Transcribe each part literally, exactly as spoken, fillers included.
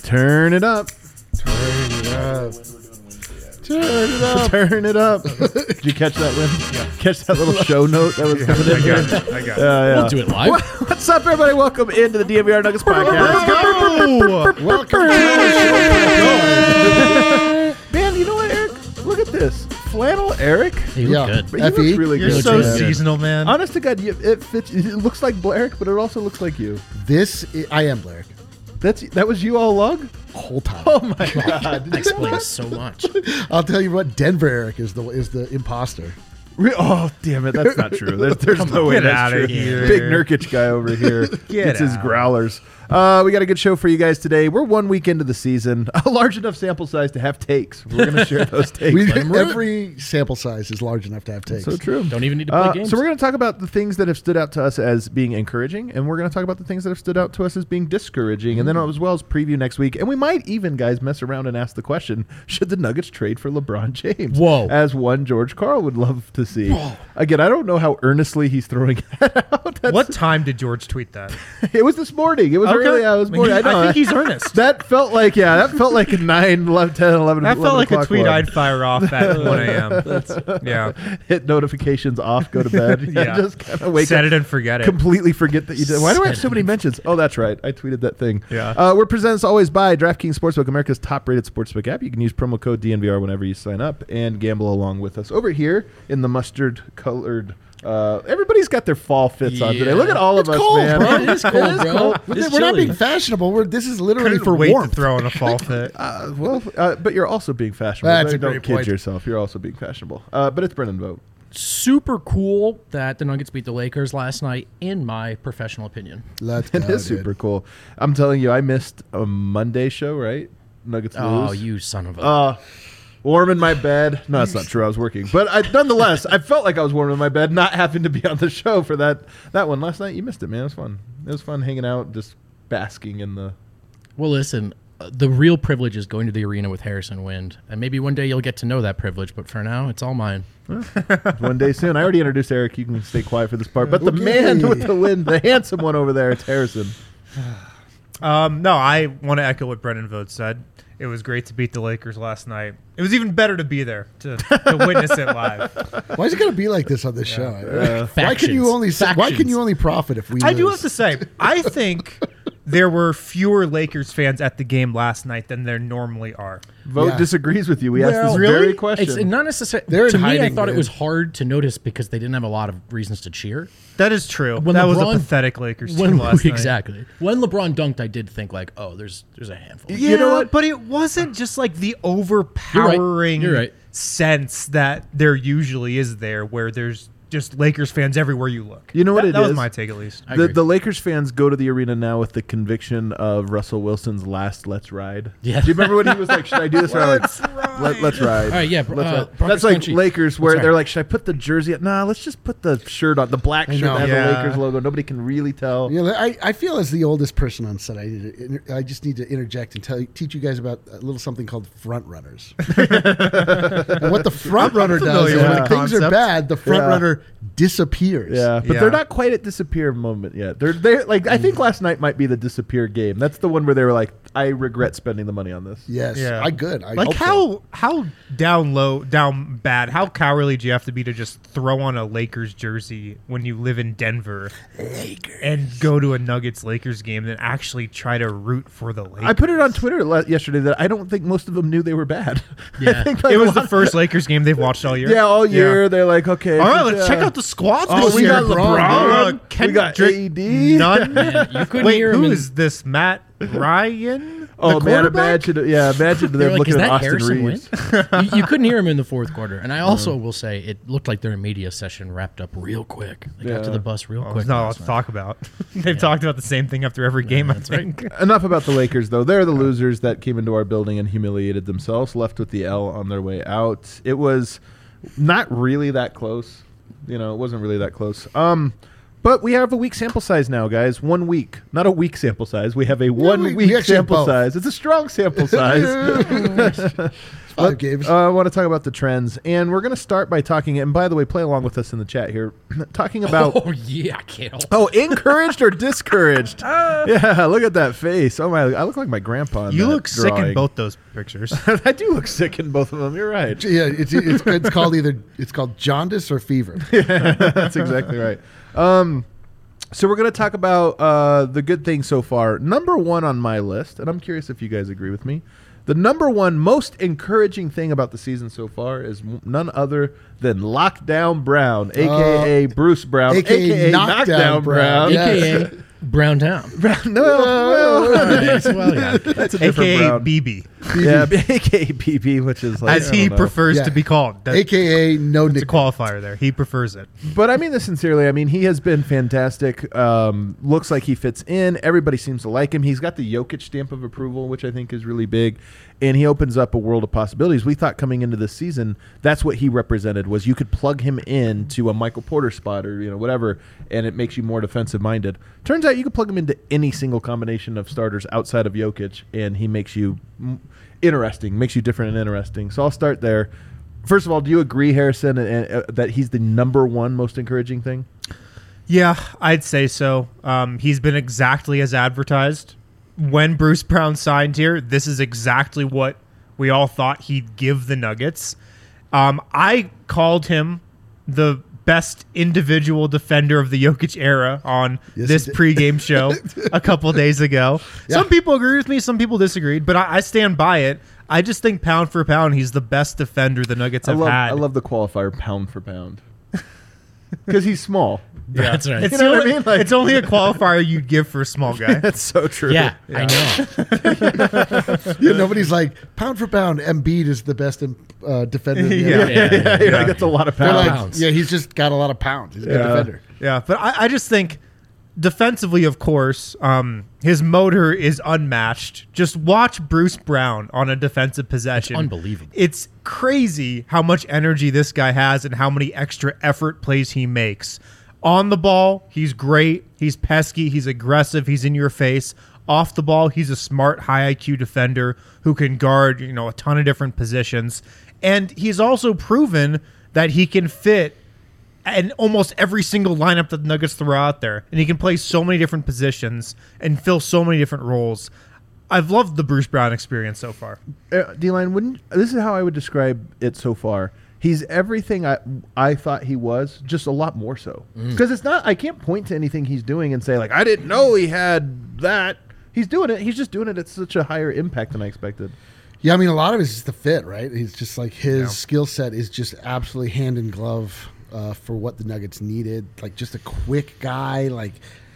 Turn it up. Turn it up. Turn it up. Turn it up. Did you catch that, Lynn? Yeah. Catch that little show note that was coming in I there? got it. I got it. Yeah, yeah. We'll do it live. What's up, everybody? Welcome into the D M V R Nuggets podcast. Welcome to the show. Man, you know what, Eric? Look at this. Flannel Eric. You look good. But he looks really You're good. so Yeah. seasonal, man. Honest to God, you, it fits. It looks like Blarick, but it also looks like you. This, I, I am Blair. That's that was you all along. Whole time. Oh my God! That explains so much. I'll tell you what, Denver Eric is the is the imposter. Re- oh damn it! That's not true. There's, there's no way Get that's outta true. here. Big Nurkic guy over here Get gets his out. growlers. Uh, we got a good show for you guys today. We're one week into the season, a large enough sample size to have takes. We're going to share those takes. We, them rip. every sample size is large enough to have takes. So true. Don't even need to play Uh, games. so we're going to talk about the things that have stood out to us as being encouraging, and we're going to talk about the things that have stood out to us as being discouraging, and then as well as preview next week. And we might even, guys, mess around and ask the question: should the Nuggets trade for LeBron James? Whoa. As one George Karl would love to see. Again, I don't know how earnestly he's throwing that out. That's, What time did George tweet that? It was this morning. It was Okay. early. I was morning. I know. I think he's earnest. That felt like yeah. That felt like a nine, eleven, ten, eleven. That felt eleven like a o'clock tweet one. I'd fire off at one a.m. Yeah. Hit notifications off. Go to bed. Yeah. Just kind of wake Set up. it and forget it. Completely forget that you did. Why do I have Set so it many and mentions? Oh, that's right. I tweeted that thing. Yeah. Uh, we're presented as always by DraftKings Sportsbook, America's top-rated sportsbook app. You can use promo code D N V R whenever you sign up and gamble along with us. Over here in the mustard-colored. Uh, everybody's got their fall fits on today. Yeah. Look at all It's of us, cold, man. bro. It is cold, It is bro. cold. We're, It's we're not chilly. being fashionable. We're, this is literally Couldn't for wait warmth. to throw in a fall fit. Uh, well, uh, but you're also being fashionable. That's Don't a great kid point. yourself. You're also being fashionable. Uh, but it's Brennan Vogt. Super cool that the Nuggets beat the Lakers last night, in my professional opinion. Let's It go, is dude. super cool. I'm telling you, I missed a Monday show, right? Nuggets Oh, lose. you son of a... Uh, warm in my bed. No, that's not true. I was working. But I, nonetheless, I felt like I was warm in my bed, not having to be on the show for that that one. Last night, you missed it, man. It was fun. It was fun hanging out, just basking in the... Well, listen, uh, the real privilege is going to the arena with Harrison Wind. And maybe one day you'll get to know that privilege, but for now, it's all mine. One day soon. I already introduced Eric. You can stay quiet for this part. But the Okay. man with the wind, the handsome one over there, it's Harrison. Um, no, I want to echo what Brendan Vogt said. It was great to beat the Lakers last night. It was even better to be there to, to witness it live. Why is it going to be like this on this show? Why can you Factions. only say, Why can Factions. you only profit if we? I do lose? have to say, I think there were fewer Lakers fans at the game last night than there normally are. Vogt Yeah. disagrees with you. We asked this Well, very really? question. It's not necessarily... They're To in me, I hiding, thought man. it was hard to notice because they didn't have a lot of reasons to cheer. That is true. When that was a LeBron- pathetic Lakers team When, last night. exactly. When LeBron dunked, I did think, like, oh, there's there's a handful. Yeah, You know what? but it wasn't just like the overpowering You're right. sense that there usually is there, where there's just Lakers fans everywhere you look. You know what that, it that was is? my take, at least. I The, agree. the Lakers fans go to the arena now with the conviction of Russell Wilson's last "Let's Ride." Yeah. Do you remember when he was like, "Should I do this?" or I'm like, Let's ride. Let, let's ride. All right, yeah, Let's uh, ride. Broncos That's like country. Lakers, where That's they're right. like, "Should I put the jersey?" Up? Nah, let's just put the shirt on, the black shirt know. that has Yeah. the Lakers logo. Nobody can really tell. You know, I, I feel as the oldest person on set, I need to inter- I just need to interject and tell you, teach you guys about a little something called front runners. And what the front runner does familiar is with when the things are concept. bad, the front Yeah. runner disappears. Yeah, but Yeah. they're not quite at disappear moment yet. They're they like I think last night might be the disappear game. That's the one where they were like, "I regret spending the money on this." Yes. Yeah. I good. I like hope how so. how down low, down bad, how cowardly do you have to be to just throw on a Lakers jersey when you live in Denver and go to a Nuggets Lakers game than actually try to root for the Lakers? I put it on Twitter le- yesterday that I don't think most of them knew they were bad. Yeah. I think like It a was the lot- first Lakers game they've watched all year. Yeah, all year Yeah. they're like, okay. All right, good let's job. check out the squads. Oh, this we year. got LeBron. Uh, Ken We got Drake- A D. None. Man, you couldn't Wait, hear who him in- is this? Matt Ryan? Oh the man, quarterback? imagine! Yeah, imagine They're them like, looking is at that Austin Harrison Reeves. Wind? you, you couldn't hear him in the fourth quarter. And I also will say it looked like their media session wrapped up real quick. They Yeah. got to the bus real Well, quick. there's not a lot last to night. talk about. They've talked about the same thing after every game, I that's right. think. Enough about the Lakers, though. They're the losers that came into our building and humiliated themselves, left with the L on their way out. It was not really that close. You know, it wasn't really that close. Um, but we have a week sample size now, guys. One week. Not a week sample size. We have a one we- week we actually have sample both. size. It's a strong sample size. Five Let- games. Uh, I want to talk about the trends, and we're going to start by talking. And by the way, play along with us in the chat here, talking about. Oh yeah, Kale. Oh, encouraged or discouraged? Yeah, look at that face. Oh my, I look like my grandpa. In You that look sick in drawing. both those pictures. I do look sick in both of them. You're right. Yeah, it's, it's it's called either it's called jaundice or fever. That's exactly right. Um, so we're going to talk about uh, the good things so far. Number one on my list, and I'm curious if you guys agree with me. The number one most encouraging thing about the season so far is m- none other than Lockdown Brown, a k a. Bruce Brown, A K A a k a. Knockdown Knockdown Brown. Brown. Yeah. A K A Brown Town. Brown. No, well, Alright, well, yeah. that's a different A K A Brown. B B, Yeah, a k a. B B, which is like, as I he don't know. prefers Yeah. to be called. That- A K A no It's a nick. qualifier there. He prefers it. But I mean this sincerely. I mean, he has been fantastic. Um, looks like he fits in. Everybody seems to like him. He's got the Jokic stamp of approval, which I think is really big. And he opens up a world of possibilities. We thought coming into this season, that's what he represented, was you could plug him into a Michael Porter spot or, you know, whatever, and it makes you more defensive minded. Turns out you can plug him into any single combination of starters outside of Jokic, and he makes you mm, interesting, makes you different and interesting. So I'll start there. First of all, do you agree, Harrison, and, uh, that he's the number one most encouraging thing? Yeah, I'd say so. Um, he's been exactly as advertised. When Bruce Brown signed here, this is exactly what we all thought he'd give the Nuggets. Um, I called him the best individual defender of the Jokic era on Yes, this you did. pregame show a couple days ago. Yeah. Some people agree with me, some people disagreed, but I, I stand by it. I just think pound for pound, he's the best defender the Nuggets I have love, had. I love the qualifier pound for pound because he's small. Yeah. That's right. It's, You know what I only, mean? Like- it's only a qualifier you'd give for a small guy. That's so true. Yeah, I know. Yeah, nobody's like pound for pound. Embiid is the best uh, defender. In the Yeah. N B A. Yeah, yeah, yeah, Yeah. That's a lot of They're pounds. like, Pounds. yeah, he's just got a lot of pounds. He's a good Yeah. defender. Yeah, but I, I just think defensively, of course, um, his motor is unmatched. Just watch Bruce Brown on a defensive possession. It's unbelievable. It's crazy how much energy this guy has and how many extra effort plays he makes. On the ball, he's great. He's pesky. He's aggressive. He's in your face. Off the ball, he's a smart, high I Q defender who can guard, you know, a ton of different positions. And he's also proven that he can fit in almost every single lineup that the Nuggets throw out there. And he can play so many different positions and fill so many different roles. I've loved the Bruce Brown experience so far. Uh, D-Line, wouldn't this is how I would describe it so far. He's everything I I thought he was, just a lot more so. Because it's not, I can't point to anything he's doing and say like, I didn't know he had that. He's doing it. He's just doing it at such a higher impact than I expected. Yeah, I mean, a lot of it is just the fit, right? He's just like his Yeah. skill set is just absolutely hand in glove uh, for what the Nuggets needed. Like just a quick guy. Like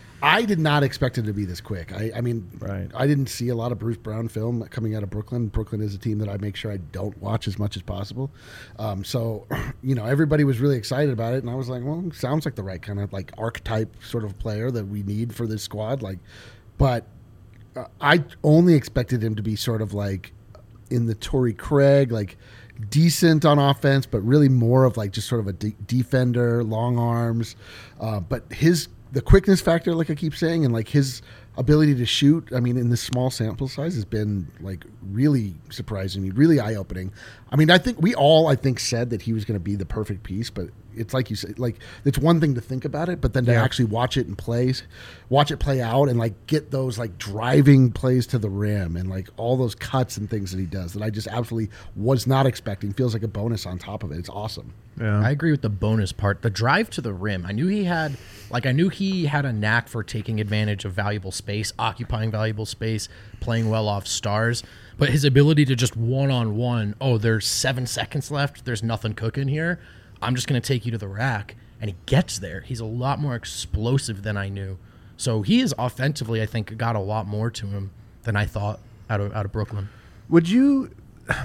I did not expect him to be this quick. I, I mean, Right. I didn't see a lot of Bruce Brown film coming out of Brooklyn. Brooklyn is a team that I make sure I don't watch as much as possible. Um, so, you know, everybody was really excited about it, and I was like, well, sounds like the right kind of like archetype sort of player that we need for this squad. Like, but uh, I only expected him to be sort of like in the Torrey Craig, like decent on offense, but really more of like just sort of a de- defender, long arms. Uh, but his the quickness factor, like I keep saying, and like his ability to shoot, I mean, in this small sample size has been like really surprising me, really eye opening. I mean, I think we all, I think, said that he was going to be the perfect piece, but it's like you said, like it's one thing to think about it, but then to Yeah. actually watch it and play, watch it play out, and like get those like driving plays to the rim and like all those cuts and things that he does that I just absolutely was not expecting. Feels like a bonus on top of it. It's awesome. Yeah. I agree with the bonus part. The drive to the rim. I knew he had, like, I knew he had a knack for taking advantage of valuable space, occupying valuable space, playing well off stars. But his ability to just one on one, oh, there's seven seconds left. There's nothing cooking here. I'm just going to take you to the rack. And he gets there. He's a lot more explosive than I knew. So he is offensively, I think, got a lot more to him than I thought out of out of Brooklyn. Would you?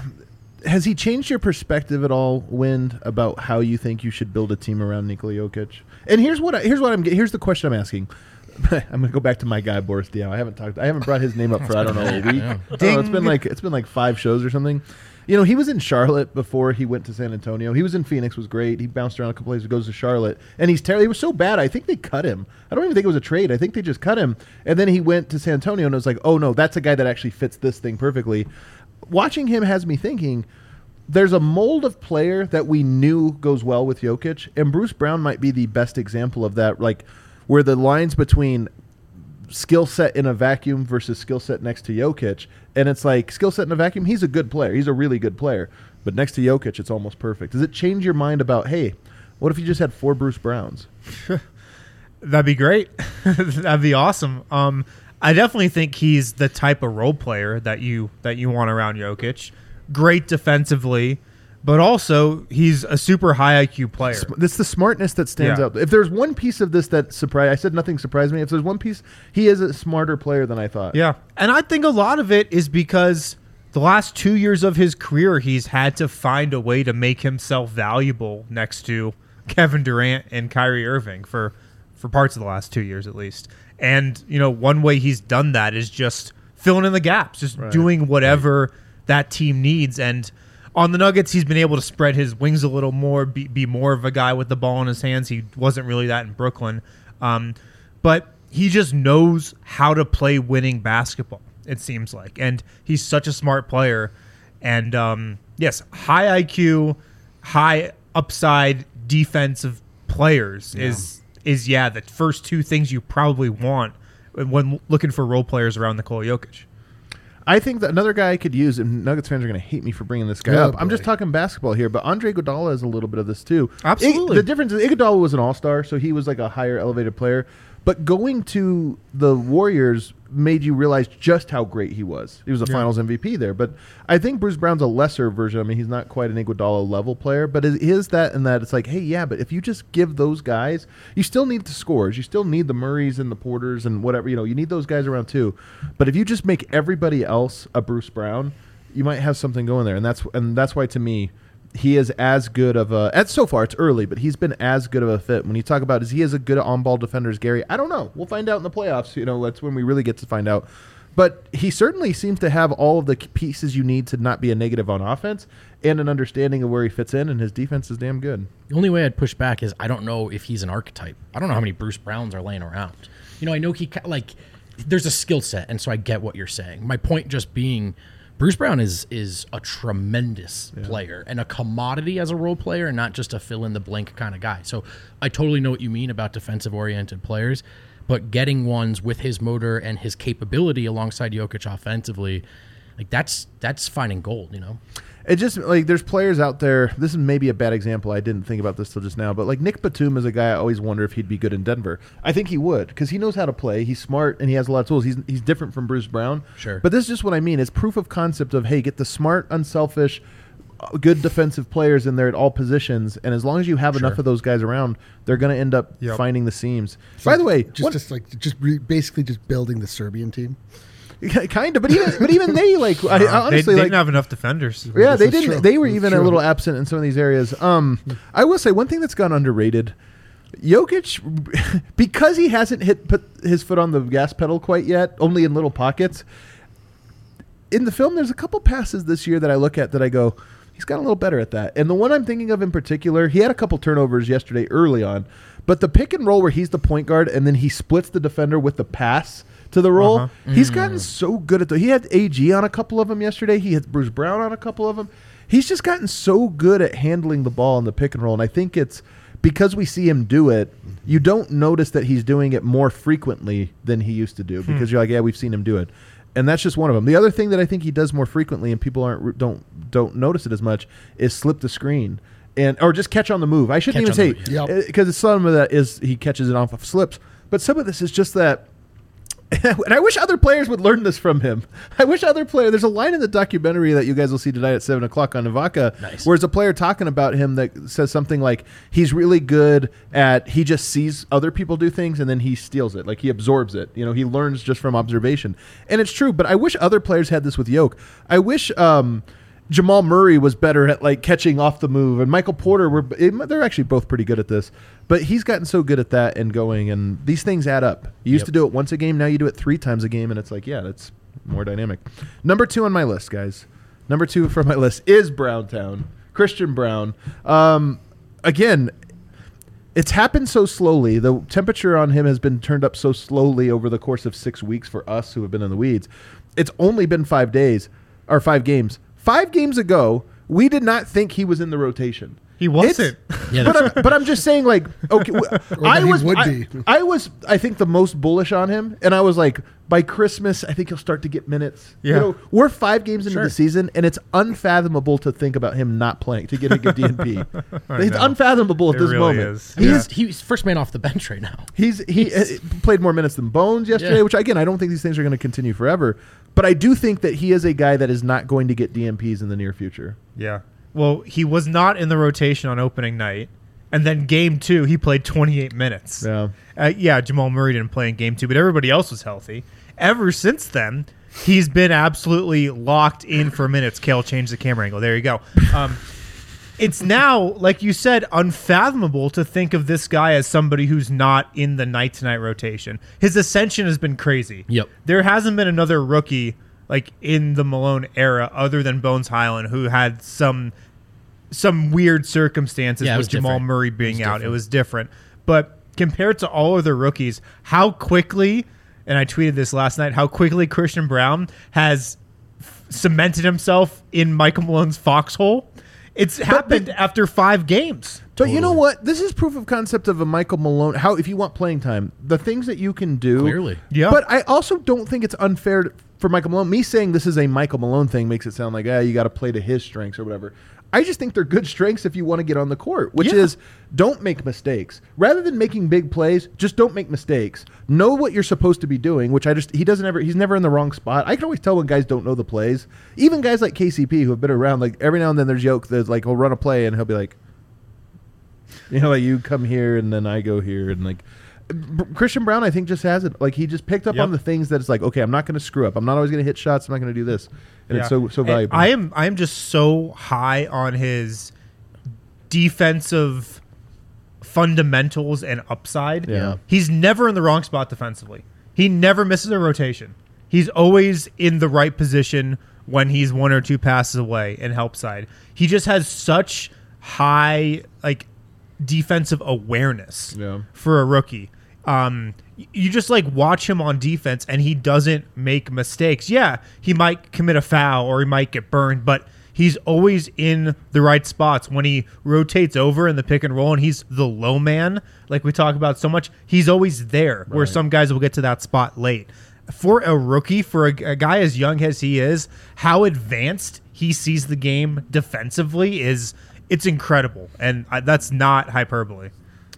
Has he changed your perspective at all, Wind, about how you think you should build a team around Nikola Jokic? And here's what I, here's what I'm here's the question I'm asking. I'm gonna go back to my guy Boris Diaw. I haven't talked. I haven't brought his name up for I don't know a week. Yeah. I don't know, it's been like it's been like five shows or something. You know, he was in Charlotte before he went to San Antonio. He was in Phoenix, was great. He bounced around a couple places, goes to Charlotte, and he's terrible. He was so bad. I think they cut him. I don't even think it was a trade. I think they just cut him. And then he went to San Antonio, and it was like, oh no, that's a guy that actually fits this thing perfectly. Watching him has me thinking, there's a mold of player that we knew goes well with Jokic, and Bruce Brown might be the best example of that, like where the lines between skill set in a vacuum versus skill set next to Jokic, and it's like skill set in a vacuum, he's a good player. He's a really good player. But next to Jokic, it's almost perfect. Does it change your mind about, hey, what if you just had four Bruce Browns? That'd be great. That'd be awesome. Um, I definitely think he's the type of role player that you that you want around Jokic. Great defensively, but also he's a super high I Q player. It's the smartness that stands Yeah. out. If there's one piece of this that surprised, I said nothing surprised me. If there's one piece, he is a smarter player than I thought. Yeah, and I think a lot of it is because the last two years of his career, he's had to find a way to make himself valuable next to Kevin Durant and Kyrie Irving for for parts of the last two years at least. And, you know, one way he's done that is just filling in the gaps, just Right. doing whatever that team needs. And on the Nuggets, he's been able to spread his wings a little more, be, be more of a guy with the ball in his hands. He wasn't really that in Brooklyn. Um, but he just knows how to play winning basketball, it seems like. And he's such a smart player. And, um, yes, high I Q, high upside defensive players Yeah. is is yeah the first two things you probably want when looking for role players around Nikola Jokic. I think that another guy I could use, and Nuggets fans are going to hate me for bringing this guy Oh, up. I'm just boy. talking basketball here, but Andre Iguodala is a little bit of this too. Absolutely. I- the difference is Iguodala was an all-star, so he was like a higher elevated player. But going to the Warriors made you realize just how great he was. He was a Yeah. Finals M V P there. But I think Bruce Brown's a lesser version. I mean, he's not quite an Iguodala level player, but it is that and that it's like, hey, yeah, but if you just give those guys, you still need the scores. You still need the Murrays and the Porters and whatever. You know, you need those guys around too. But if you just make everybody else a Bruce Brown, you might have something going there. And that's and that's why, to me, he is as good of a at so far it's early, but he's been as good of a fit. When you talk about is he as a good on-ball defender as Gary? I don't know. We'll find out in the playoffs. You know, that's when we really get to find out. But he certainly seems to have all of the pieces you need to not be a negative on offense and an understanding of where he fits in, and his defense is damn good. The only way I'd push back is I don't know if he's an archetype. I don't know how many Bruce Browns are laying around. You know, I know he ca- like there's a skill set, and so I get what you're saying. My point just being, Bruce Brown is is a tremendous player and a commodity as a role player, and not just a fill in the blank kind of guy. So I totally know what you mean about defensive oriented players, but getting ones with his motor and his capability alongside Jokic offensively, like that's that's finding gold. You know. It just like there's players out there. This is maybe a bad example. I didn't think about this till just now, but like Nick Batum is a guy I always wonder if he'd be good in Denver. I think he would because he knows how to play. He's smart and he has a lot of tools. He's he's different from Bruce Brown. Sure. But this is just what I mean. It's proof of concept of hey, get the smart, unselfish, uh, good defensive players in there at all positions, and as long as you have enough of those guys around, they're going to end up Yep. finding the seams. By the way, just what- just like just re- basically just building the Serbian team. kind of, but even but even they like I, I they, honestly they like didn't have enough defenders. Yeah, This they is didn't. true. They were It's even a true. little absent in some of these areas. Um, I will say one thing that's gone underrated: Jokic, because he hasn't hit put his foot on the gas pedal quite yet, only in little pockets. In the film, there's a couple passes this year that I look at that I go, he's gotten a little better at that. And the one I'm thinking of in particular, he had a couple turnovers yesterday early on, but the pick and roll where he's the point guard and then he splits the defender with the pass to the roll, Uh-huh. he's gotten so good at the. He had A G on a couple of them yesterday. He had Bruce Brown on a couple of them. He's just gotten so good at handling the ball in the pick and roll, and I think it's because we see him do it. You don't notice that he's doing it more frequently than he used to do because you're like, yeah, we've seen him do it. And that's just one of them. The other thing that I think he does more frequently, and people aren't don't don't notice it as much, is slip the screen and or just catch on the move. I shouldn't Catch even on say the move, yeah. because some of that is he catches it off of slips, but some of this is just that. And I wish other players would learn this from him. I wish other players. There's a line in the documentary that you guys will see tonight at seven o'clock on Ivaka, Nice. where there's a player talking about him that says something like he's really good at he just sees other people do things and then he steals it, like he absorbs it. You know, he learns just from observation, and it's true. But I wish other players had this with Yoke. I wish. Um, Jamal Murray was better at like catching off the move, and Michael Porter were they're actually both pretty good at this. But he's gotten so good at that and going, and these things add up. You used Yep. to do it once a game, now you do it three times a game, and it's like, yeah, that's more dynamic. Number two on my list, guys. Number two for my list is Browntown, Christian Brown. Um, again, it's happened so slowly. The temperature on him has been turned up so slowly over the course of six weeks for us who have been in the weeds. It's only been five days or five games. Five games ago, we did not think he was in the rotation. He wasn't. Yeah, but, that's- I'm, but I'm just saying, like, okay, w- I that he was, would I, be. I was, I think the most bullish on him, and I was like, by Christmas, I think he'll start to get minutes. Yeah. You know, we're five games into Sure. the season, and it's unfathomable to think about him not playing to getting a D N P. It's know. unfathomable at It this really moment. is. He's he's first man off the bench right now. He's he uh, played more minutes than Bones yesterday, Yeah. which again I don't think these things are going to continue forever. But I do think that he is a guy that is not going to get D M Ps in the near future. Yeah. Well, he was not in the rotation on opening night. And then game two, he played twenty-eight minutes. Yeah. Uh, yeah, Jamal Murray didn't play in game two, but everybody else was healthy. Ever since then, he's been absolutely locked in for minutes. Kale changed the camera angle. There you go. Um, it's now, like you said, unfathomable to think of this guy as somebody who's not in the night-to-night rotation. His ascension has been crazy. Yep. There hasn't been another rookie like in the Malone era other than Bones Highland who had some some weird circumstances Yeah, it with was Jamal different. Murray being It was out. It different. was different. But compared to all other rookies, how quickly, and I tweeted this last night, how quickly Christian Brown has f- cemented himself in Michael Malone's foxhole. It's happened after five games. But you know what? This is proof of concept of a Michael Malone. How if you want playing time, the things that you can do. Clearly. Yeah. But I also don't think it's unfair to, for Michael Malone. Me saying this is a Michael Malone thing makes it sound like, ah, you got to play to his strengths or whatever. I just think they're good strengths if you want to get on the court, which Yeah. is don't make mistakes. Rather than making big plays, just don't make mistakes. Know what you're supposed to be doing, which I just, he doesn't ever, he's never in the wrong spot. I can always tell when guys don't know the plays. Even guys like K C P who have been around, like every now and then there's yoke that's like, he'll run a play and he'll be like, you know, like you come here and then I go here. And like B- Christian Brown, I think just has it. Like he just picked up Yep. on the things that it's like, okay, I'm not going to screw up. I'm not always going to hit shots. I'm not going to do this. And it's Yeah. so, so And valuable. I am I am just so high on his defensive fundamentals and upside. Yeah. He's never in the wrong spot defensively. He never misses a rotation. He's always in the right position when he's one or two passes away and help side. He just has such high like defensive awareness Yeah. for a rookie. Um, y- you just like watch him on defense and he doesn't make mistakes. Yeah, he might commit a foul or he might get burned, but he's always in the right spots. When he rotates over in the pick and roll and he's the low man, like we talk about so much, he's always there where some guys will get to that spot late. For a rookie, for a, a guy as young as he is, how advanced he sees the game defensively is it's incredible. And I, that's not hyperbole.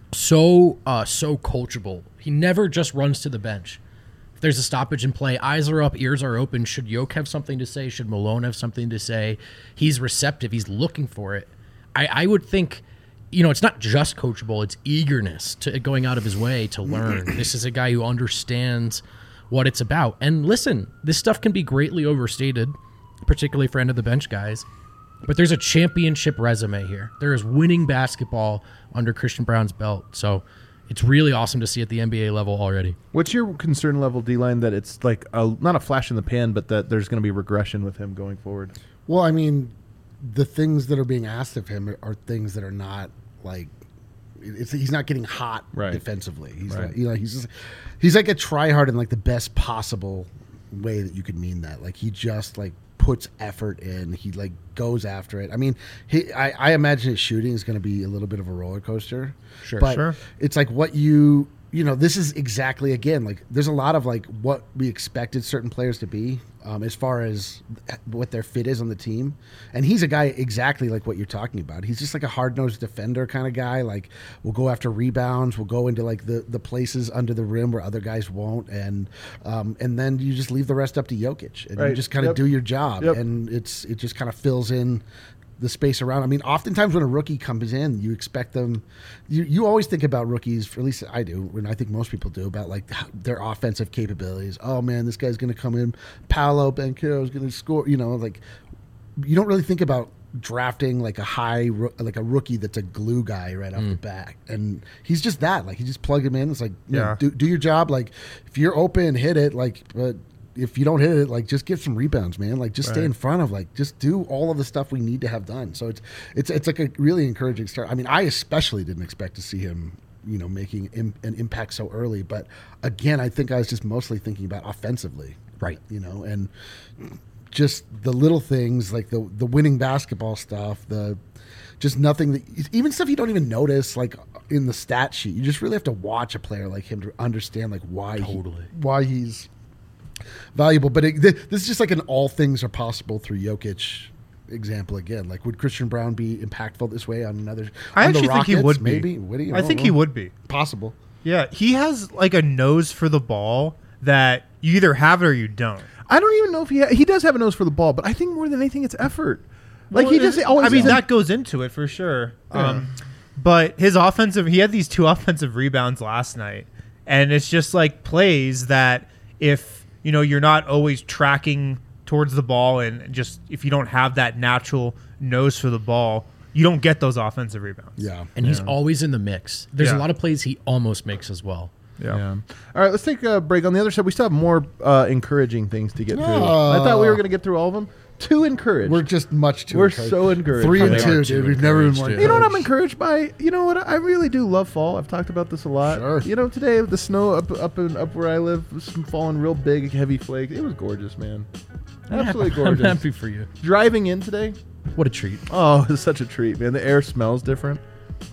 So uh so coachable. He never just runs to the bench. If there's a stoppage in play, eyes are up, ears are open. Should Yoke have something to say? Should Malone have something to say? He's receptive. He's looking for it. I, I would think, you know, it's not just coachable. It's eagerness to going out of his way to learn. This is a guy who understands what it's about. And listen, this stuff can be greatly overstated, particularly for end of the bench guys. But there's a championship resume here. There is winning basketball under Christian Brown's belt. So it's really awesome to see at the N B A level already. What's your concern level, D-line, that it's like a, not a flash in the pan, but that there's going to be regression with him going forward? Well, I mean, the things that are being asked of him are, are things that are not like it's, he's not getting hot Right. defensively. He's Right. not, you know, he's just, he's like a tryhard in like the best possible way that you could mean that. Like he just like puts effort in. He like goes after it. I mean, he I, I imagine his shooting is going to be a little bit of a roller coaster. Sure. but Sure. it's like what you you know. This is exactly again like there's a lot of like what we expected certain players to be. Um, as far as what their fit is on the team. And he's a guy exactly like what you're talking about. He's just like a hard-nosed defender kind of guy. Like, we'll go after rebounds. We'll go into, like, the, the places under the rim where other guys won't. And um, and then you just leave the rest up to Jokic. And Right. you just kind of Yep. do your job. Yep. And it's it just kind of fills in the space around. I mean, oftentimes when a rookie comes in, you expect them. You, you always think about rookies, or at least I do, and I think most people do, about like their offensive capabilities. Oh man, this guy's going to come in. Paolo Banchero is going to score. You know, like you don't really think about drafting like a high, roo- like a rookie that's a glue guy right off the bat, and he's just that. Like you just plug him in. It's like, you know, Yeah. do do your job. Like if you're open, hit it. Like, but. If you don't hit it, like just get some rebounds, man. Like just stay Right. in front of, like just do all of the stuff we need to have done. So it's it's it's like a really encouraging start. I mean, I especially didn't expect to see him, you know, making Im- an impact so early. But again, I think I was just mostly thinking about offensively, Right. you know, and just the little things like the the winning basketball stuff, the just nothing that even stuff you don't even notice like in the stat sheet. You just really have to watch a player like him to understand like why Totally. he, why he's valuable. But it, this is just like an all things are possible through Jokic example again. Like, would Christian Brown be impactful this way on another? I on the actually think he Rockets? would be. Maybe. Would he? I don't think know. he would be. Possible. Yeah, he has like a nose for the ball that you either have it or you don't. I don't even know if he ha- he does have a nose for the ball, but I think more than anything, it's effort. Like Well, he just it- always. I mean, isn't- that goes into it for sure. Um, but his offensive, he had these two offensive rebounds last night, and it's just like plays that if you know you're not always tracking towards the ball, and just if you don't have that natural nose for the ball, you don't get those offensive rebounds. Yeah. And he's always in the mix. There's Yeah. a lot of plays he almost makes as well. Yeah. All right, let's take a break. On the other side, we still have more uh, encouraging things to get through. Oh. I thought we were going to get through all of them. Too encouraged. We're just much too We're encouraged. so encouraged. Three and They two, are too dude. We've never been more encouraged, You know what I'm encouraged. encouraged by? You know what? I really do love fall. I've talked about this a lot. Sure. You know, today the snow up up in, up where I live was falling real big, heavy flakes. It was gorgeous, man. Absolutely I'm gorgeous. happy for you. Driving in today, What a treat. oh, it's such a treat, man. The air smells different.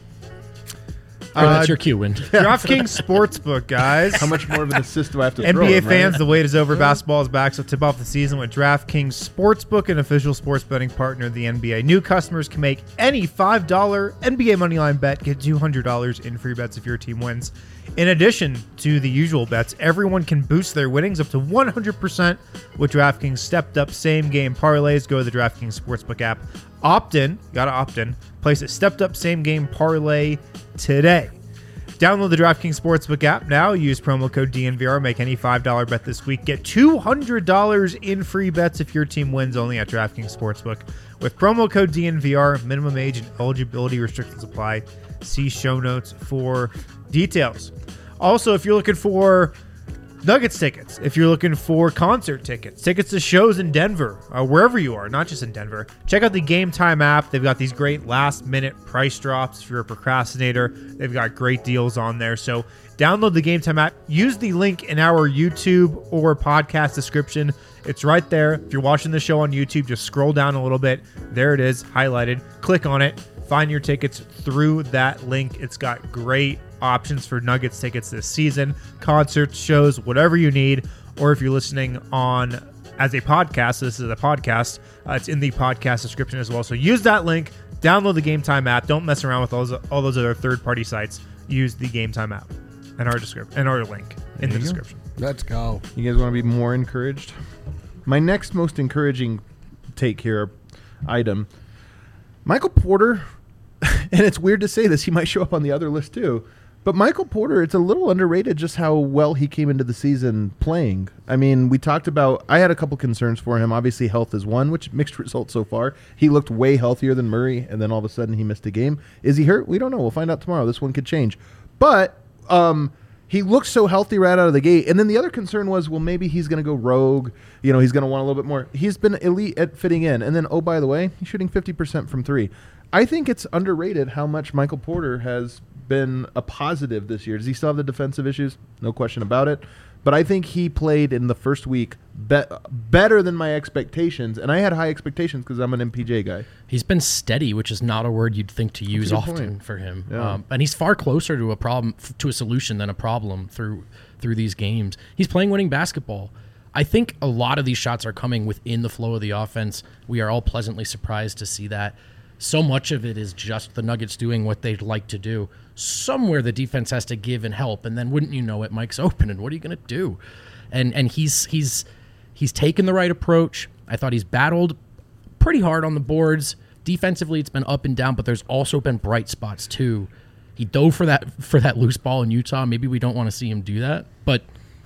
All right, Uh, that's your cue, Wind. DraftKings Sportsbook, guys. How much more of an assist do I have to N throw B A him, right? fans, the wait is over. Basketball is back, so tip off the season with DraftKings Sportsbook, an official sports betting partner of the N B A. New customers can make any five dollar N B A moneyline bet, get two hundred dollars in free bets if your team wins. In addition to the usual bets, everyone can boost their winnings up to one hundred percent with DraftKings stepped-up same-game parlays. Go to the DraftKings Sportsbook app. Opt in. Gotta opt in. Place a stepped-up same-game parlay today. Download the DraftKings Sportsbook app now. Use promo code D N V R. Make any five dollar bet this week. Get two hundred dollars in free bets if your team wins, only at DraftKings Sportsbook. With promo code D N V R, minimum age and eligibility restrictions apply. See show notes for details. Also, if you're looking for Nuggets tickets, if you're looking for concert tickets, tickets to shows in Denver, uh, wherever you are, not just in Denver, check out the Game Time app. They've got these great last minute price drops. If you're a procrastinator, they've got great deals on there. So download the Game Time app. Use the link in our YouTube or podcast description. It's right there. If you're watching the show on YouTube, just scroll down a little bit. There it is, highlighted. Click on it. Find your tickets through that link. It's got great options for Nuggets tickets this season, concerts, shows, whatever you need. Or if you're listening on as a podcast, so this is a podcast, uh, it's in the podcast description as well. So use that link, download the Game Time app. Don't mess around with all those, all those other third-party sites. Use the Game Time app and our description and our link in the description. Let's go. You guys want to be more encouraged? My next most encouraging take here, item, Michael Porter, and it's weird to say this, he might show up on the other list too, but Michael Porter, it's a little underrated just how well he came into the season playing. I mean, we talked about, I had a couple concerns for him. Obviously, health is one, which mixed results so far. He looked way healthier than Murray, and then all of a sudden he missed a game. Is he hurt? We don't know. We'll find out tomorrow. This one could change. But um, he looked so healthy right out of the gate. And then the other concern was, well, maybe he's going to go rogue. You know, he's going to want a little bit more. He's been elite at fitting in. And then, oh, by the way, he's shooting fifty percent from three. I think it's underrated how much Michael Porter has been a positive this year. Does he still have the defensive issues? No question about it. But I think he played in the first week be- better than my expectations. And I had high expectations because I'm an M P J guy. He's been steady, which is not a word you'd think to use a good often point. for him. Yeah. Um, and he's far closer to a problem, f- to a solution than a problem through through these games. He's playing winning basketball. I think a lot of these shots are coming within the flow of the offense. We are all pleasantly surprised to see that. So much of it is just the Nuggets doing what they'd like to do. Somewhere the defense has to give and help, and then wouldn't you know it, Mike's open, and what are you going to do? And and he's he's he's taken the right approach. I thought he's battled pretty hard on the boards. Defensively, it's been up and down, but there's also been bright spots too. He dove for that for that loose ball in Utah. Maybe we don't want to see him do that, but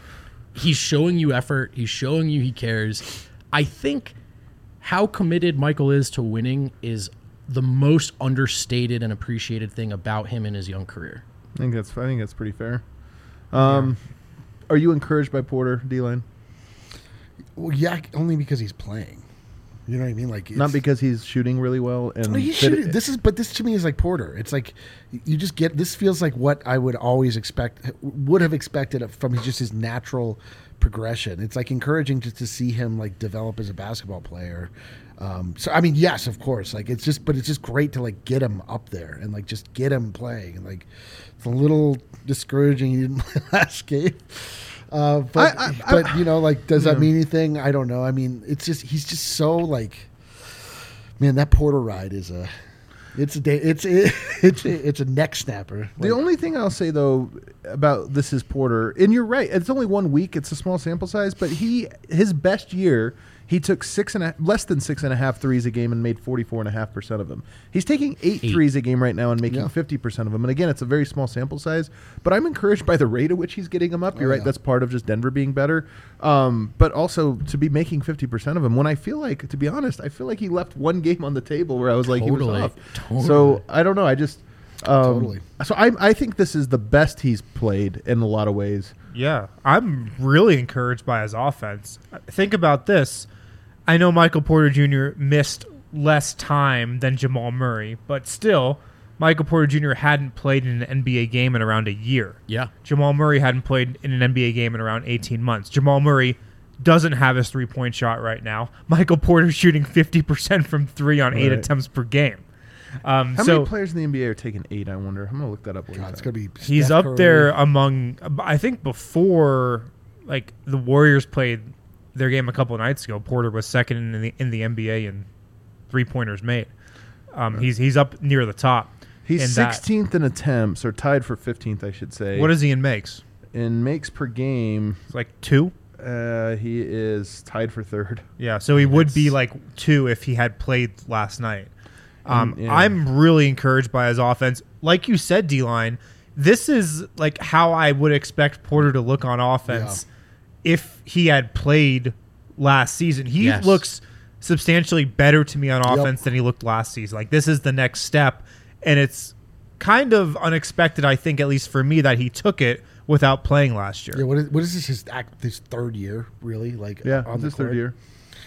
he's showing you effort. He's showing you he cares. I think how committed Michael is to winning is the most understated and appreciated thing about him in his young career. I think that's I think that's pretty fair. Um, yeah. Are you encouraged by Porter, D-Line? Well, yeah, only because he's playing. You know what I mean? Like, it's, Not because he's shooting really well. And Well, he's fit- shooting, this is, but this to me is like Porter. It's like you just get. This feels like what I would always expect, would have expected from just his natural progression. It's like encouraging just to see him like develop as a basketball player. Um, so I mean, yes, of course, like it's just, but it's just great to like get him up there and like just get him playing. And like it's a little discouraging he didn't play last game. Uh, but I, I, but I, you know, like, does yeah. that mean anything? I don't know. I mean, it's just he's just so like, man, that Porter ride is a, it's a day, it's it, it's a, it's a neck snapper. The Like, only thing I'll say though about this is Porter, and you're right. It's only one week. It's a small sample size, but he his best year. He took six and a, less than six and a half threes a game and made forty-four and a half percent of them. He's taking eight, Eight. threes a game right now and making Yeah. fifty percent of them. And again, it's a very small sample size, but I'm encouraged by the rate at which he's getting them up. You're Oh, right. yeah. That's part of just Denver being better. Um, but also to be making fifty percent of them when I feel like, to be honest, I feel like he left one game on the table where I was like, he Totally. was off. Totally. So I don't know. I just, um, Totally. So I, I think this is the best he's played in a lot of ways. Yeah, I'm really encouraged by his offense. Think about this. I know Michael Porter Junior missed less time than Jamal Murray, but still, Michael Porter Junior hadn't played in an N B A game in around a year. Yeah. Jamal Murray hadn't played in an N B A game in around eighteen months. Jamal Murray doesn't have his three-point shot right now. Michael Porter's shooting fifty percent from three on eight Right. attempts per game. Um, How so many players in the N B A are taking eight, I wonder? I'm going to look that up. while God, you it's talk. gonna be. he's Steph up Curry. there among, I think before, like, the Warriors played their game a couple of nights ago, Porter was second in the in the N B A in three-pointers made. Um, he's he's up near the top. He's in that. sixteenth in attempts, or tied for fifteenth, I should say. What is he in makes? in makes per game? It's like two? Uh, he is tied for third. Yeah, so he would be That's- like two if he had played last night. Um, Mm, yeah. I'm really encouraged by his offense. Like you said, D-line, this is like how I would expect Porter to look on offense if he had played last season. He Yes. looks substantially better to me on Yep. offense than he looked last season. Like, this is the next step, and it's kind of unexpected, I think, at least for me, that he took it without playing last year. Yeah, what is, what is this? His act, this third year, really? Like, Yeah, on it's the his third court? year.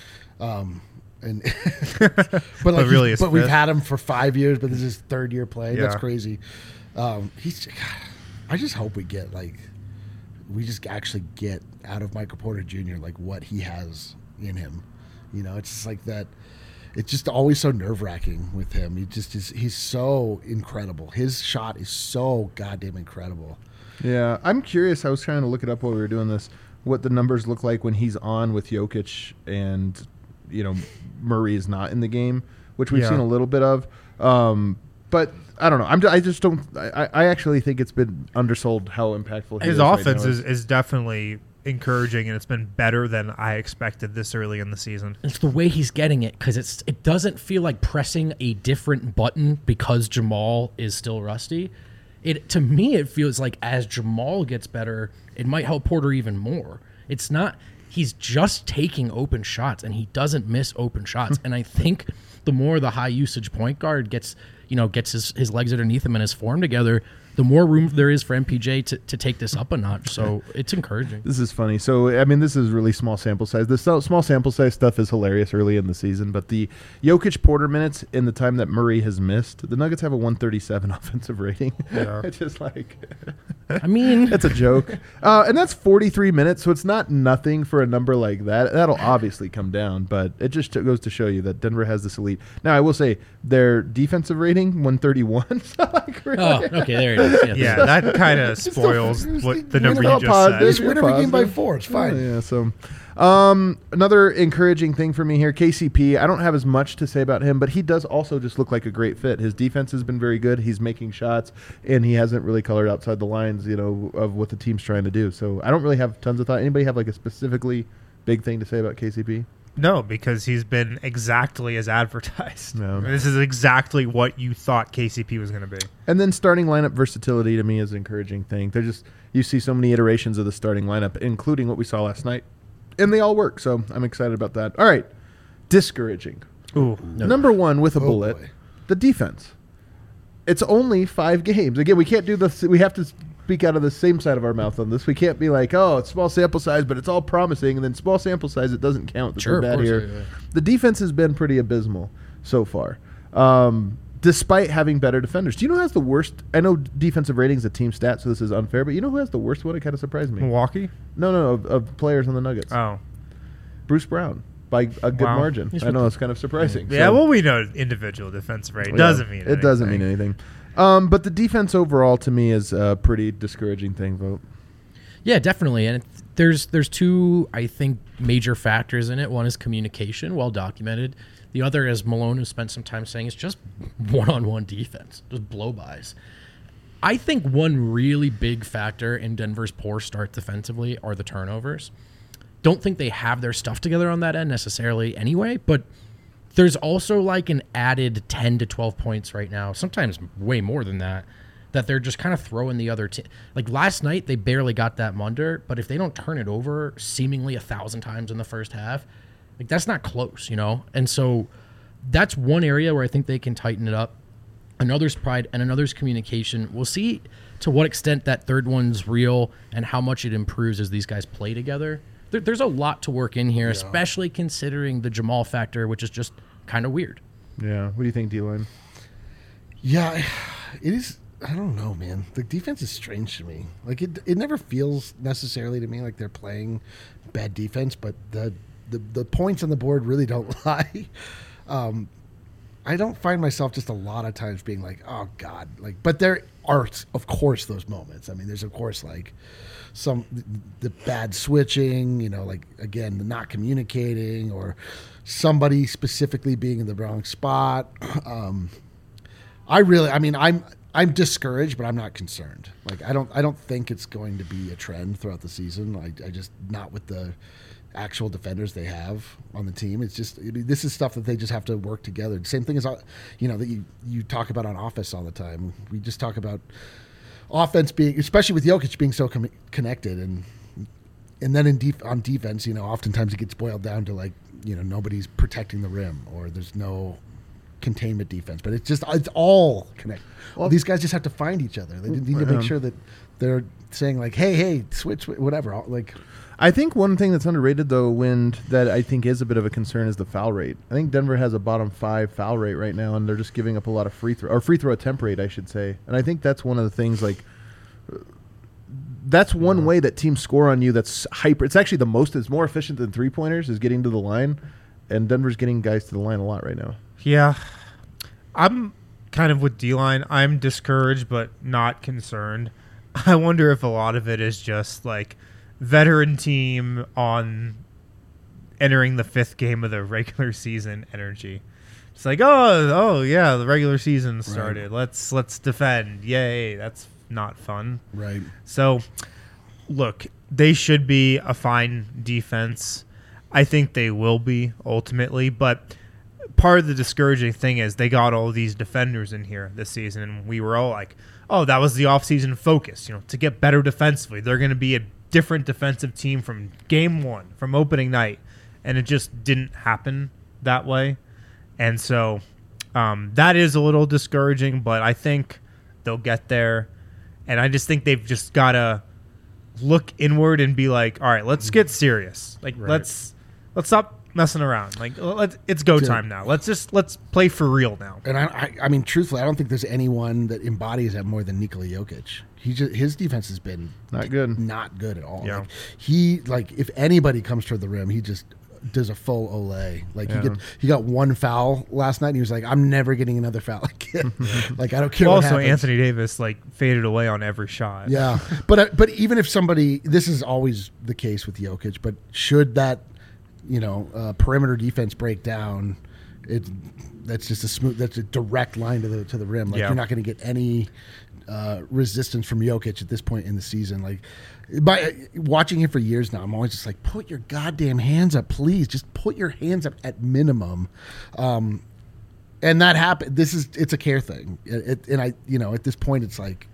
Um, and but like, really really, his but we've fifth. had him for five years, but this is his third year playing. That's Yeah. crazy. Um, he's. I just hope we get like, we just actually get out of Michael Porter Junior like what he has in him. You know, it's just like that. It's just always so nerve wracking with him. He just is. He's so incredible. His shot is so goddamn incredible. Yeah, I'm curious. I was trying to look it up while we were doing this. What the numbers look like when he's on with Jokic and, you know, Murray is not in the game, which we've Yeah. seen a little bit of. Um, but I don't know. I'm. I just don't. I, I actually think it's been undersold how impactful he His is right offense now. is, is definitely encouraging, and it's been better than I expected this early in the season. It's the way he's getting it because it's it doesn't feel like pressing a different button because Jamal is still rusty. It to me it feels like as Jamal gets better, it might help Porter even more. It's not he's just taking open shots and he doesn't miss open shots. And I think the more the high usage point guard gets you know gets his, his legs underneath him and his form together, the more room there is for M P J to, to take this up a notch. So it's encouraging. This is funny. So, I mean, this is really small sample size. The so- small sample size stuff is hilarious early in the season, but the Jokic Porter minutes in the time that Murray has missed, the Nuggets have a one thirty-seven offensive rating. Yeah. It's just like, I mean, it's a joke. Uh, and that's forty-three minutes, so it's not nothing for a number like that. That'll obviously come down, but it just goes to show you that Denver has this elite. Now, I will say their defensive rating, one thirty-one. So like, really, oh, okay, there it is. Yeah, Yeah, that kind of spoils it's what the- the number you you know, just positive. Just said. win You're every game by positive. four. It's fine. Yeah, yeah, so um, another encouraging thing for me here, K C P. I don't have as much to say about him, but he does also just look like a great fit. His defense has been very good. He's making shots, and he hasn't really colored outside the lines, you know, of what the team's trying to do. So I don't really have tons of thought. Anybody have like a specifically big thing to say about K C P? No, because he's been exactly as advertised. No. This is exactly what you thought K C P was going to be. And then starting lineup versatility to me is an encouraging thing. They're just you see so many iterations of the starting lineup, including what we saw last night, and they all work. So I'm excited about that. All right, discouraging. Ooh. No. Number one with a Oh, bullet, boy. the defense. It's only five games. Again, we can't do this. We have to speak out of the same side of our mouth on this. We can't be like, oh, it's small sample size, but it's all promising, and then small sample size, it doesn't count. That's Sure, so of bad course, here. yeah, yeah. The defense has been pretty abysmal so far. Um, despite having better defenders. Do you know who has the worst? I know defensive rating is a team stat, so this is unfair, but you know who has the worst one? It kind of surprised me. Milwaukee? No, no, of, of players on the Nuggets. Oh. Bruce Brown, by a good Wow. margin. He's I know it's kind of surprising. Yeah, So- well, we know individual defensive rate Yeah, doesn't mean anything. It doesn't mean anything. Um, but the defense overall, to me, is a pretty discouraging thing, Vote. Yeah, definitely. And it, there's there's two, I think, major factors in it. One is communication, well documented. The other, as Malone has spent some time saying, is just one-on-one defense, just blow-bys. I think one really big factor in Denver's poor start defensively are the turnovers. Don't think they have their stuff together on that end necessarily anyway, but there's also like an added ten to twelve points right now, sometimes way more than that, that they're just kind of throwing the other team. Like last night, they barely got that Munder, but if they don't turn it over seemingly a thousand times in the first half, like that's not close, you know? And so that's one area where I think they can tighten it up. Another's pride and another's communication. We'll see to what extent that third one's real and how much it improves as these guys play together. There, there's a lot to work in here, especially considering the Jamal factor, which is just kind of weird. Yeah. What do you think, D-Line? Yeah, it is. I don't know, man. The defense is strange to me. Like it, it never feels necessarily to me like they're playing bad defense, but the the, the points on the board really don't lie. Um, I don't find myself just a lot of times being like, oh God, like, but there are, of course, those moments. I mean, there's of course like some the bad switching, you know, like again, the not communicating or somebody specifically being in the wrong spot. Um, I really, I mean, I'm I'm discouraged, but I'm not concerned. Like I don't I don't think it's going to be a trend throughout the season. I, I just not with the actual defenders they have on the team. It's just I mean, this is stuff that they just have to work together. Same thing as you know that you, you talk about on offense all the time. We just talk about offense being, especially with Jokic being so com- connected, and and then in def- on defense, you know, oftentimes it gets boiled down to like you know nobody's protecting the rim or there's no containment defense, but it's just it's all connected. Well, these guys just have to find each other. They need to make sure that they're saying like, hey, hey, switch, whatever. Like. I think one thing that's underrated, though, Wind, that I think is a bit of a concern is the foul rate. I think Denver has a bottom five foul rate right now, and they're just giving up a lot of free throw, or free throw attempt rate, I should say. And I think that's one of the things, like, that's one yeah. way that teams score on you that's hyper. It's actually the most, it's more efficient than three-pointers is getting to the line, and Denver's getting guys to the line a lot right now. Yeah. I'm kind of with D-Line. I'm discouraged, but not concerned. I wonder if a lot of it is just, like, veteran team on entering the fifth game of the regular season energy. It's like, oh, oh yeah, the regular season started. Right. Let's let's defend. Yay, that's not fun. Right. So, look, they should be a fine defense. I think they will be ultimately, but part of the discouraging thing is they got all these defenders in here this season, and we were all like, oh, that was the offseason focus, you know, to get better defensively. They're going to be a different defensive team from game one, from opening night, and it just didn't happen that way. And so um, that is a little discouraging, but I think they'll get there. And I just think they've just got to look inward and be like, all right, let's get serious. Like, right. let's let's stop messing around. Like, let's, it's go time now. Let's just let's play for real now. And I, I, I mean, truthfully, I don't think there's anyone that embodies that more than Nikola Jokic. He just, his defense has been not good, not good at all. Yeah. Like, he like if anybody comes toward the rim, he just does a full Olay. Like yeah. he get, he got one foul last night, and he was like, "I'm never getting another foul again." Like I don't care. Well, what also, happens. Anthony Davis like faded away on every shot. Yeah, but uh, but even if somebody, this is always the case with Jokic. But should that, you know, uh, perimeter defense break down, it that's just a smooth, that's a direct line to the to the rim. Like yeah. you're not going to get any uh, resistance from Jokic at this point in the season. Like by watching him for years now, I'm always just like, put your goddamn hands up, please. Just put your hands up at minimum. Um, and that happened. This is it's a care thing, it, it, and I, you know, at this point, it's like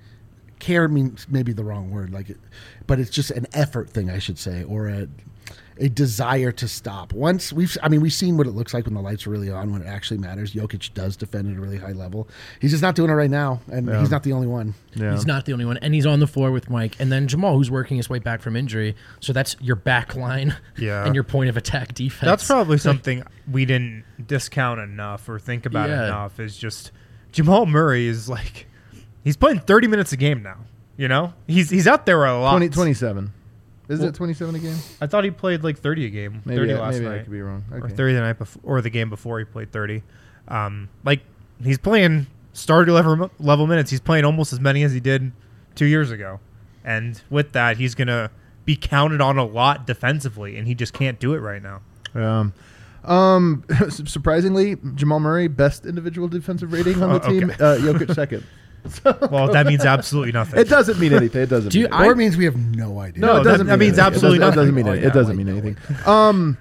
care means maybe the wrong word, like, it, but it's just an effort thing, I should say, or a. a desire to stop. Once we've, I mean, we've seen what it looks like when the lights are really on, when it actually matters. Jokic does defend at a really high level. He's just not doing it right now, and yeah. he's not the only one. Yeah. He's not the only one, and he's on the floor with Mike, and then Jamal, who's working his way back from injury. So that's your back line yeah. and your point of attack defense. That's probably something we didn't discount enough or think about Yeah. enough. Is just Jamal Murray is like, he's playing thirty minutes a game now. You know, he's he's out there a lot. twenty, twenty-seven. Is Well, it twenty-seven a game? I thought he played like thirty a game. Maybe, thirty I, last maybe night. I could be wrong. Or Okay. thirty the night before, or the game before he played thirty. Um, like he's playing starter level level minutes. He's playing almost as many as he did two years ago, and with that, he's gonna be counted on a lot defensively, and he just can't do it right now. Um, um, surprisingly, Jamal Murray best individual defensive rating on the Oh, okay. team. Uh, Jokic second. Well, that means absolutely nothing. It doesn't mean anything. It doesn't. Do you- mean I- Or it means we have no idea. No, No, it doesn't. that- that mean means anything. absolutely it doesn't, It doesn't nothing. mean Oh, it. yeah, It doesn't I mean know. anything. Um,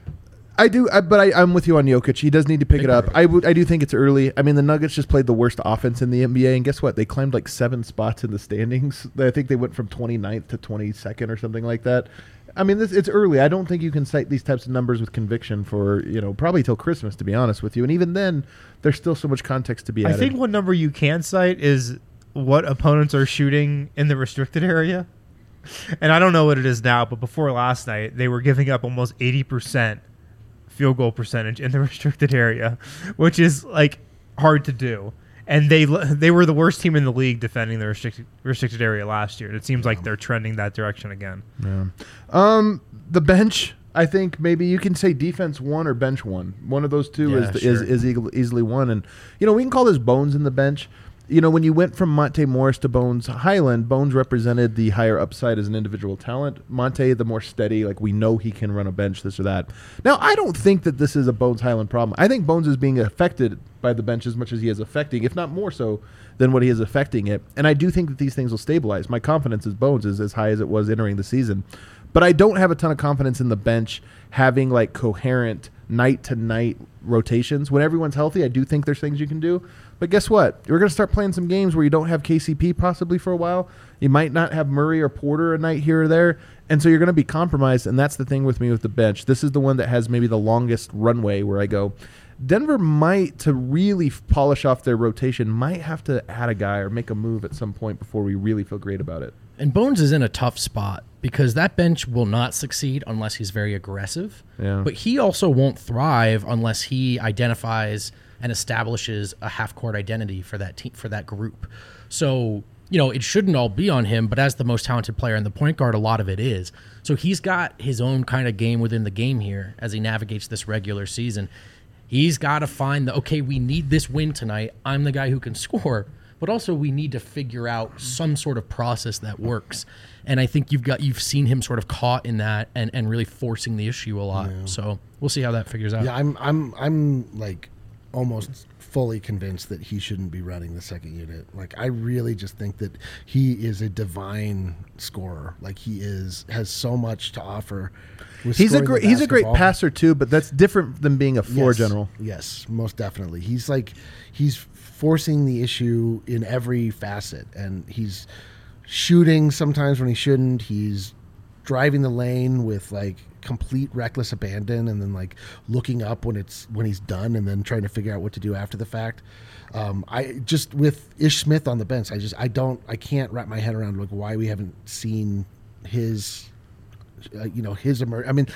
I do, I, but I, I'm with you on Jokic. He does need to pick Big it up. part. I would, I do think it's early. I mean, the Nuggets just played the worst offense in the N B A, and guess what? They climbed like seven spots in the standings. I think they went from twenty-ninth to twenty-second or something like that. I mean, this, it's early. I don't think you can cite these types of numbers with conviction for, you know, probably till Christmas, to be honest with you. And even then, there's still so much context to be I added. think one number you can cite is what opponents are shooting in the restricted area. And I don't know what it is now, but before last night, they were giving up almost eighty percent field goal percentage in the restricted area, which is like hard to do. And they they were the worst team in the league defending the restricted restricted area last year. And it seems like they're trending that direction again. Yeah. Um, the bench, I think maybe you can say defense one or bench one. One of those two Yeah, is, sure. is is eagle- easily one. And you know, we can call this Bones in the bench. You know, when you went from Monte Morris to Bones Highland, Bones represented the higher upside as an individual talent. Monte, the more steady, like we know he can run a bench, this or that. Now, I don't think that this is a Bones Highland problem. I think Bones is being affected by the bench as much as he is affecting, if not more so than what he is affecting it. And I do think that these things will stabilize. My confidence in Bones is as high as it was entering the season. But I don't have a ton of confidence in the bench having like coherent night to night rotations. When everyone's healthy, I do think there's things you can do. But guess what? You're going to start playing some games where you don't have K C P possibly for a while. You might not have Murray or Porter a night here or there. And so you're going to be compromised. And that's the thing with me with the bench. This is the one that has maybe the longest runway where I go, Denver might, to really f- polish off their rotation, might have to add a guy or make a move at some point before we really feel great about it. And Bones is in a tough spot because that bench will not succeed unless he's very aggressive. Yeah. But he also won't thrive unless he identifies and establishes a half-court identity for that team, for that group. So, you know, it shouldn't all be on him, but as the most talented player in the point guard, a lot of it is. So he's got his own kind of game within the game here as he navigates this regular season. He's got to find the, okay, we need this win tonight. I'm the guy who can score. But also we need to figure out some sort of process that works. And I think you've got you've seen him sort of caught in that and, and really forcing the issue a lot. Yeah. So we'll see how that figures out. Yeah, I'm I'm I'm like almost fully convinced that he shouldn't be running the second unit. Like I really just think that he is a divine scorer. Like he is has so much to offer. With He's a scoring the great he's a great basketball. passer too, but that's different than being a floor Yes. general. Yes, most definitely. He's like he's forcing the issue in every facet, and he's shooting sometimes when he shouldn't. He's driving the lane with like complete reckless abandon, and then like looking up when it's when he's done, and then trying to figure out what to do after the fact. Um, I just with Ish Smith on the bench, I just I don't I can't wrap my head around like why we haven't seen his, uh, you know, his emerge. I mean.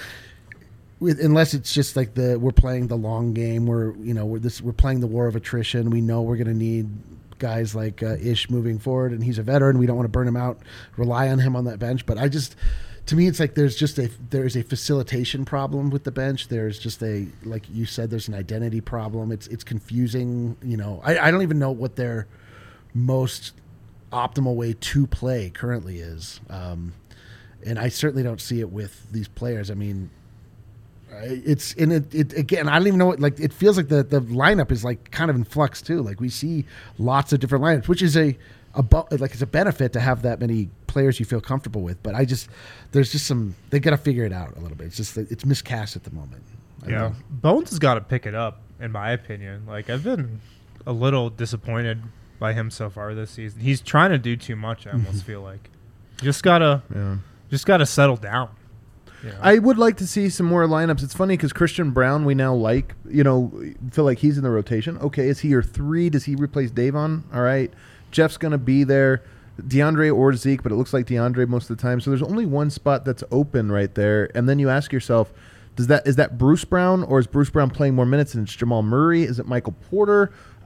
With, unless it's just like the we're playing the long game, we're you know we're this we're playing the war of attrition. We know we're going to need guys like uh, Ish moving forward, and he's a veteran. We don't want to burn him out, rely on him on that bench. But I just, to me, it's like there's just a there's a facilitation problem with the bench. There's just a like you said, there's an identity problem. It's it's confusing. You know, I, I don't even know what their most optimal way to play currently is, um, and I certainly don't see it with these players. I mean. It's in it, it again. I don't even know what like. It feels like the, the lineup is like kind of in flux too. Like we see lots of different lineups, which is a, a bu- like it's a benefit to have that many players you feel comfortable with. But I just there's just some they got to figure it out a little bit. It's just that it's miscast at the moment. I Yeah, know. Bones has got to pick it up, in my opinion. Like I've been a little disappointed by him so far this season. He's trying to do too much. I almost feel like just gotta Yeah. just gotta settle down. You know? I would like to see some more lineups. It's funny because Christian Brown, we now like, you know, feel like he's in the rotation. Okay, is he your three? Does he replace Davon? All right. Jeff's going to be there. DeAndre or Zeke, but it looks like DeAndre most of the time. So there's only one spot that's open right there. And then you ask yourself, does that is that Bruce Brown, or is Bruce Brown playing more minutes and it's Jamal Murray? Is it Michael Porter?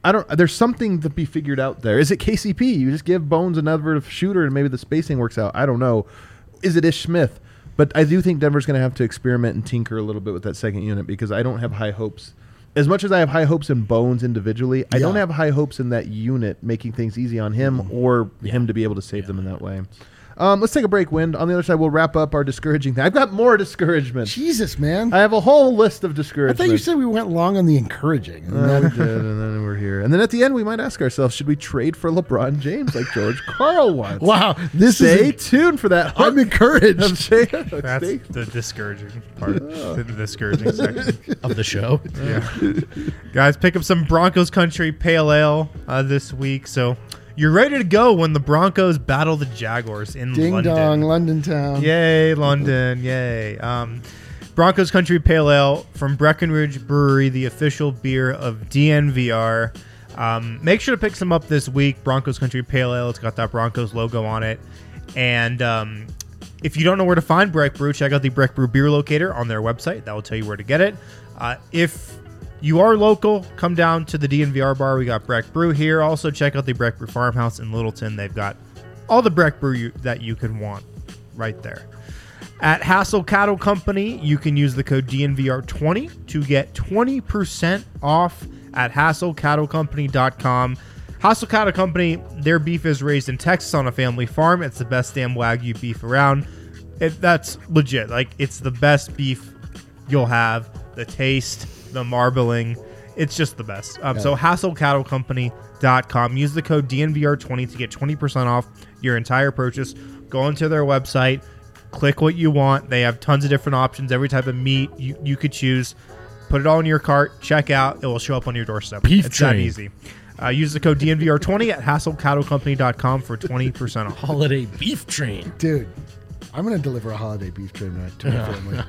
I don't. There's something to be figured out there. Is it K C P? You just give Bones another shooter, and maybe the spacing works out. I don't know. Is it Ish Smith? But I do think Denver's going to have to experiment and tinker a little bit with that second unit because I don't have high hopes. As much as I have high hopes in Bones individually, I Yeah. don't have high hopes in that unit making things easy on him or Yeah. him to be able to save them in that way. Um, let's take a break, Wind. On the other side, we'll wrap up our discouraging thing. I've got more discouragement. Jesus, man. I have a whole list of I discouragement. thought you said we went long on the encouraging. And Uh, then- we did, and then we're here. And then at the end, we might ask ourselves, should we trade for LeBron James like George Karl wants? wow, this Stay is. tuned for that. I'm encouraged. Stay- That's stay- the discouraging part. The discouraging section. of the show. Yeah. Guys, pick up some Broncos Country Pale Ale uh, this week. So you're ready to go when the Broncos battle the Jaguars in Ding London. dong, London town. Yay, London. Yay. Um, Broncos Country Pale Ale from Breckenridge Brewery, the official beer of D N V R. Um, make sure to pick some up this week. Broncos Country Pale Ale. It's got that Broncos logo on it. And um, if you don't know where to find Breck Brew, check out the Breck Brew Beer Locator on their website. That will tell you where to get it. Uh, if you are local, come down to the D N V R bar. We got Breck Brew here. Also, check out the Breck Brew Farmhouse in Littleton. They've got all the Breck Brew you, that you could want right there. At Hassel Cattle Company, you can use the code D N V R twenty to get twenty percent off at hassel cattle company dot com. Hassel Cattle Company, their beef is raised in Texas on a family farm. It's the best damn Wagyu beef around. It, that's legit. Like, it's the best beef you'll have. The taste, the marbling, it's just the best. Um, So hassel cattle company dot com. Use the code D N V R twenty to get twenty percent off your entire purchase. Go into their website, click what you want. They have tons of different options, every type of meat you, you could choose. Put it all in your cart, check out. It will show up on your doorstep. Beef it's that train. easy. Uh, use the code D N V R twenty at hassel cattle company dot com for twenty percent off. Holiday beef train. Dude, I'm going to deliver a holiday beef train to my family.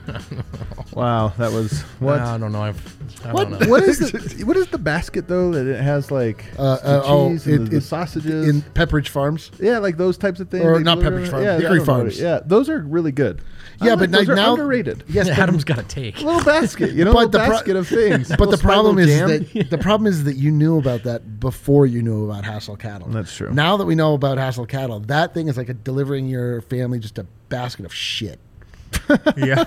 Wow, that was what? I don't know. I've, I What, don't know. what is the what is the basket though that it has like Uh, the uh, oh, cheese and it- the, the it- sausages? In Pepperidge Farms. yeah, like those types of things. Or They not deliver- Pepperidge Farms, yeah, Hickory I don't know what Farms. it- Yeah, those are really good. I Yeah, like but those like are now- underrated. Yes, but- Adam's got a take. Little basket, you know, But little the pro- basket of things. But Little the Sprite, problem is little jam. that the problem is that you knew about that before you knew about Hassel Cattle. That's true. Now that we know about Hassel Cattle, that thing is like a delivering your family just a basket of shit. Yeah.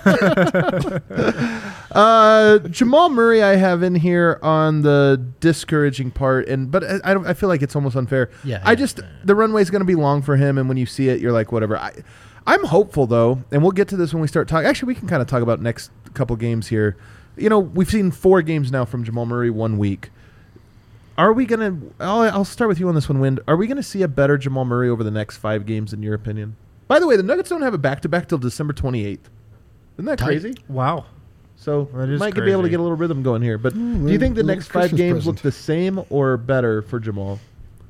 Uh, Jamal Murray, I have in here on the discouraging part, and but I, I, don't, I feel like it's almost unfair. Yeah, I yeah. just the runway is going to be long for him, and when you see it, you're like, whatever. I, I'm hopeful though, and we'll get to this when we start talking. Actually, we can kind of talk about next couple games here. You know, we've seen four games now from Jamal Murray one week. Are we gonna? I'll, I'll start with you on this one, Wind. Are we gonna see a better Jamal Murray over the next five games, in your opinion? By the way, the Nuggets don't have a back-to-back till December twenty-eighth. Isn't that Tight. crazy? Wow. So That is might be able to crazy. get a little rhythm going here. But Mm, do you think the little next five Christmas games present. look the same or better for Jamal?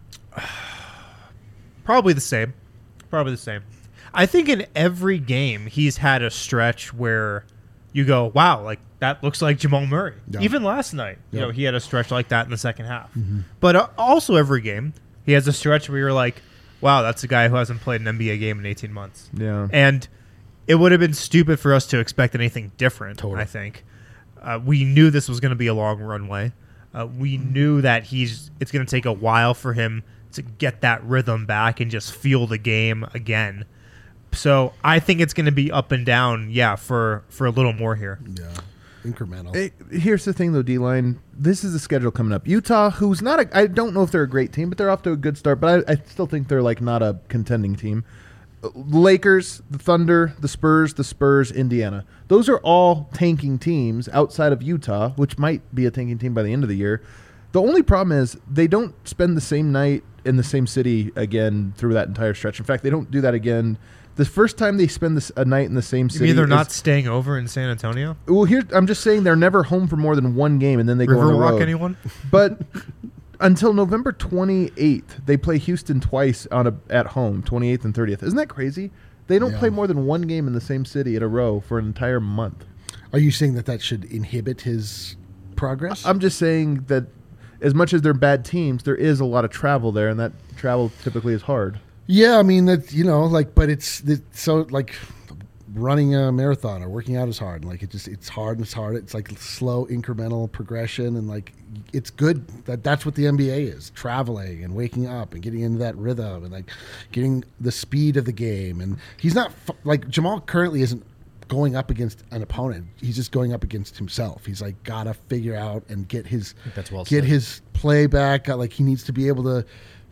Probably the same. Probably the same. I think in every game he's had a stretch where you go, wow, like that looks like Jamal Murray. Yeah. Even last night, you Yeah. know, he had a stretch like that in the second half. But uh, also every game he has a stretch where you're like, wow, that's a guy who hasn't played an N B A game in eighteen months. Yeah. And it would have been stupid for us to expect anything different, Totally. I think. Uh, we knew this was going to be a long runway. Uh, we knew that he's it's going to take a while for him to get that rhythm back and just feel the game again. So I think it's going to be up and down, yeah, for, for a little more here. Yeah, incremental. Hey, here's the thing, though, D-Line. This is the schedule coming up. Utah, who's not a... I don't know if they're a great team, but they're off to a good start. But I, I still think they're, like, not a contending team. Uh, Lakers, the Thunder, the Spurs, the Spurs, Indiana. Those are all tanking teams outside of Utah, which might be a tanking team by the end of the year. The only problem is they don't spend the same night in the same city again through that entire stretch. In fact, they don't do that again. The first time they spend this, a night in the same You city... mean they're is- not staying over in San Antonio? Well, here I'm just saying they're never home for more than one game, and then they go on the Riverwalk, road. anyone? But until November twenty-eighth, they play Houston twice on a at home, twenty-eighth and thirtieth. Isn't that crazy? They don't Yeah. play more than one game in the same city in a row for an entire month. Are you saying that that should inhibit his progress? I'm just saying that as much as they're bad teams, there is a lot of travel there, and that travel typically is hard. Yeah, I mean that you know, like, but it's it, so like running a marathon or working out is hard. Like it just it's hard and it's hard. It's like slow incremental progression, and like it's good that that's what the N B A is: traveling and waking up and getting into that rhythm and like getting the speed of the game. And he's not like Jamal currently isn't going up against an opponent. He's just going up against himself. He's like gotta figure out and get his that's well get said. his play back. Like he needs to be able to.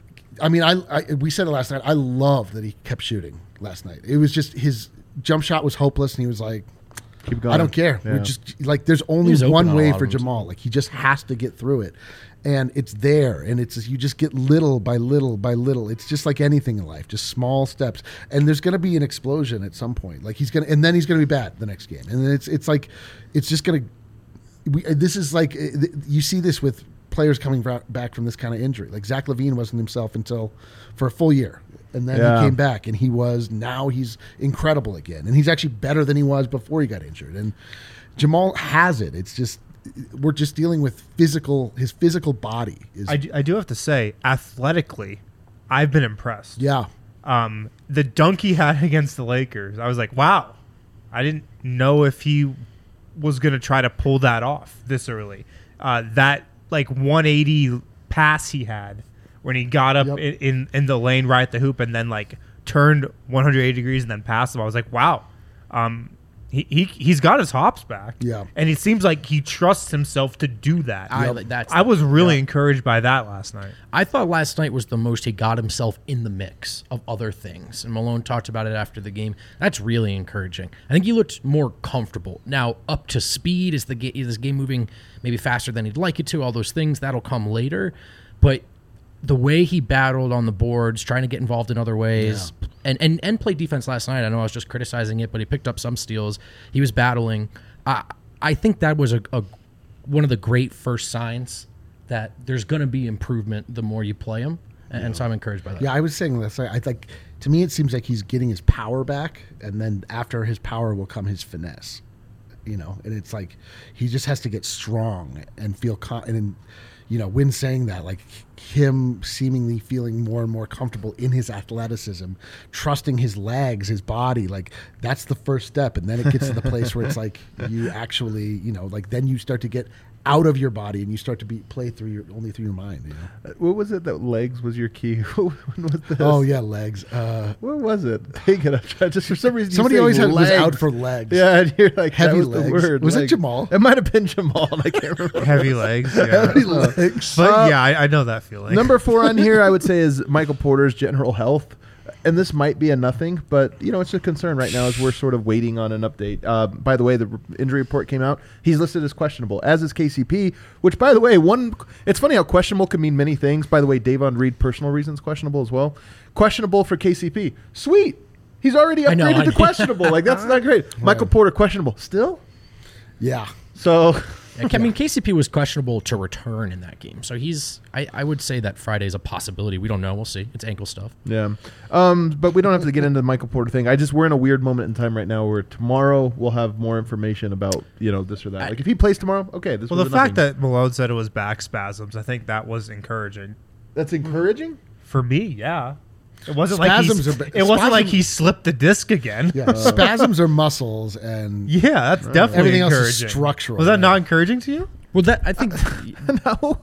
I mean, I, I we said it last night. I love that he kept shooting last night. It was just his jump shot was hopeless, and he was like, Keep going. I don't care. Yeah. We're just like there's only was open one on a way lot for of them, Jamal. Like he just has to get through it, and it's there. And it's you just get little by little by little. It's just like anything in life, just small steps. And there's going to be an explosion at some point. Like he's gonna, and then he's going to be bad the next game. And then it's it's like it's just going to. This is like you see this with players coming back from this kind of injury. Like Zach LaVine wasn't himself until for a full year. And then Yeah. he came back, and he was now he's incredible again, and he's actually better than he was before he got injured. And Jamal has it. It's just we're just dealing with physical. His physical body is I do, I do have to say, athletically, I've been impressed. yeah. Um, the dunk he had against the Lakers, I was like, wow. I didn't know if he was going to try to pull that off this early. Uh, that like one eighty pass he had when he got up Yep. in, in, in the lane right at the hoop and then like turned one hundred eighty degrees and then passed him. I was like, wow. Um, he, he, he's got his hops back. Yeah. And it seems like he trusts himself to do that. I, Yep. that's, I was really encouraged by that last night. I thought last night was the most he got himself in the mix of other things. And Malone talked about it after the game. That's really encouraging. I think he looked more comfortable. Now, up to speed, is the ga- is this game moving maybe faster than he'd like it to? All those things, that'll come later. But the way he battled on the boards, trying to get involved in other ways, and, and, and played defense last night. I know I was just criticizing it, but he picked up some steals. He was battling. I, I think that was a, a one of the great first signs that there's going to be improvement the more you play him, and, and so I'm encouraged by that. Yeah, I was saying this. I, I think to me it seems like he's getting his power back, and then after his power will come his finesse. You know, and it's like he just has to get strong and feel con- and you know, when saying that, like him seemingly feeling more and more comfortable in his athleticism, trusting his legs, his body, like that's the first step. And then it gets to the place where it's like you actually, you know, like then you start to get out of your body and you start to be play through your only through your mind. You know? Uh, What was it that legs was your key? when was this? Oh yeah, legs. Uh, What was it? Take it. I'm trying, just for some reason. you somebody say always had, was legs. out for legs. Yeah, and you're like Heavy that was legs. the word. Was it legs. Jamal? It might have been Jamal. I can't remember. Heavy legs. Yeah. Heavy legs. But Uh, yeah, I, I know that feeling. Number four on here, I would say, is Michael Porter's general health. And this might be a nothing, but, you know, it's a concern right now as we're sort of waiting on an update. Uh, by the way, the r- injury report came out. He's listed as questionable, as is K C P, which, by the way, one. It's funny how questionable can mean many things. By the way, Davon Reed, personal reasons, questionable as well. Questionable for K C P. Sweet. He's already I know, upgraded I to know. questionable. Like, that's not great. Michael Porter, questionable. Still? Yeah. So... I mean, K C P was questionable to return in that game, so he's. I, I would say that Friday's a possibility. We don't know. We'll see. It's ankle stuff. Yeah, um, but we don't have to get into the Michael Porter thing. I just we're in a weird moment in time right now where tomorrow we'll have more information about you know this or that. Like if he plays tomorrow, okay. This well, was the a fact nothing. that Malone said it was back spasms, I think that was encouraging that's encouraging. for me. Yeah, it wasn't like he, Spasms s- are ba- it wasn't like spasm- he slipped the disc again. Yeah. Spasms are muscles and Yeah, that's definitely Everything else is encouraging. structural, Was that right? not encouraging to you? Well, that I think no,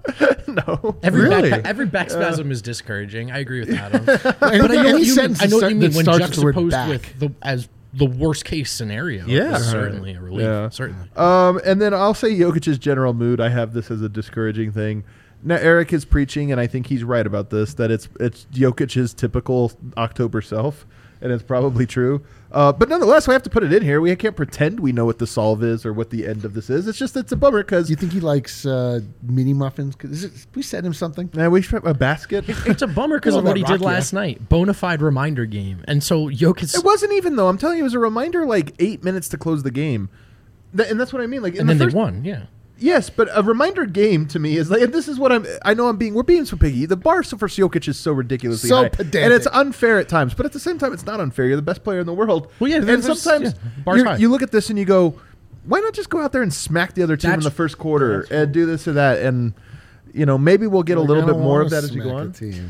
no. every Really? back, every back spasm is discouraging. I agree with Adam. Any- but I know any what you mean. sentence I know what start- you mean that when starts with the word juxtaposed back. with the as the worst case scenario. Yeah. is certainly a relief. Yeah. Certainly. Um, and then I'll say Jokic's general mood. I have this as a discouraging thing. Now Eric is preaching, and I think he's right about this. That it's it's Jokic's typical October self, and it's probably true. Uh, but nonetheless, we have to put it in here. We can't pretend we know what the solve is or what the end of this is. It's just it's a bummer because Do you think he likes uh, mini muffins? 'Cause is it, we sent him something. man, we should have a basket. It's a bummer because Well, of what that he did Rocky- last night. Bona fide reminder game, and so Jokic. It wasn't even though. I'm telling you, it was a reminder like eight minutes to close the game, Th- and that's what I mean. Like, in and the then first, they won. Yeah. Yes, but a reminder game to me is like, and this is what I'm. I know I'm being. We're being so piggy. The bar for Jokic is so ridiculously So high, pedantic. and it's unfair at times. But at the same time, it's not unfair. You're the best player in the world. Well, yeah, and there's- sometimes yeah, bar's you're- high. you look at this and you go, why not just go out there and smack the other team in That's- the first quarter and do this or that, and you know maybe we'll get a Like, little I bit don't more wanna of that as we go smack a on. team.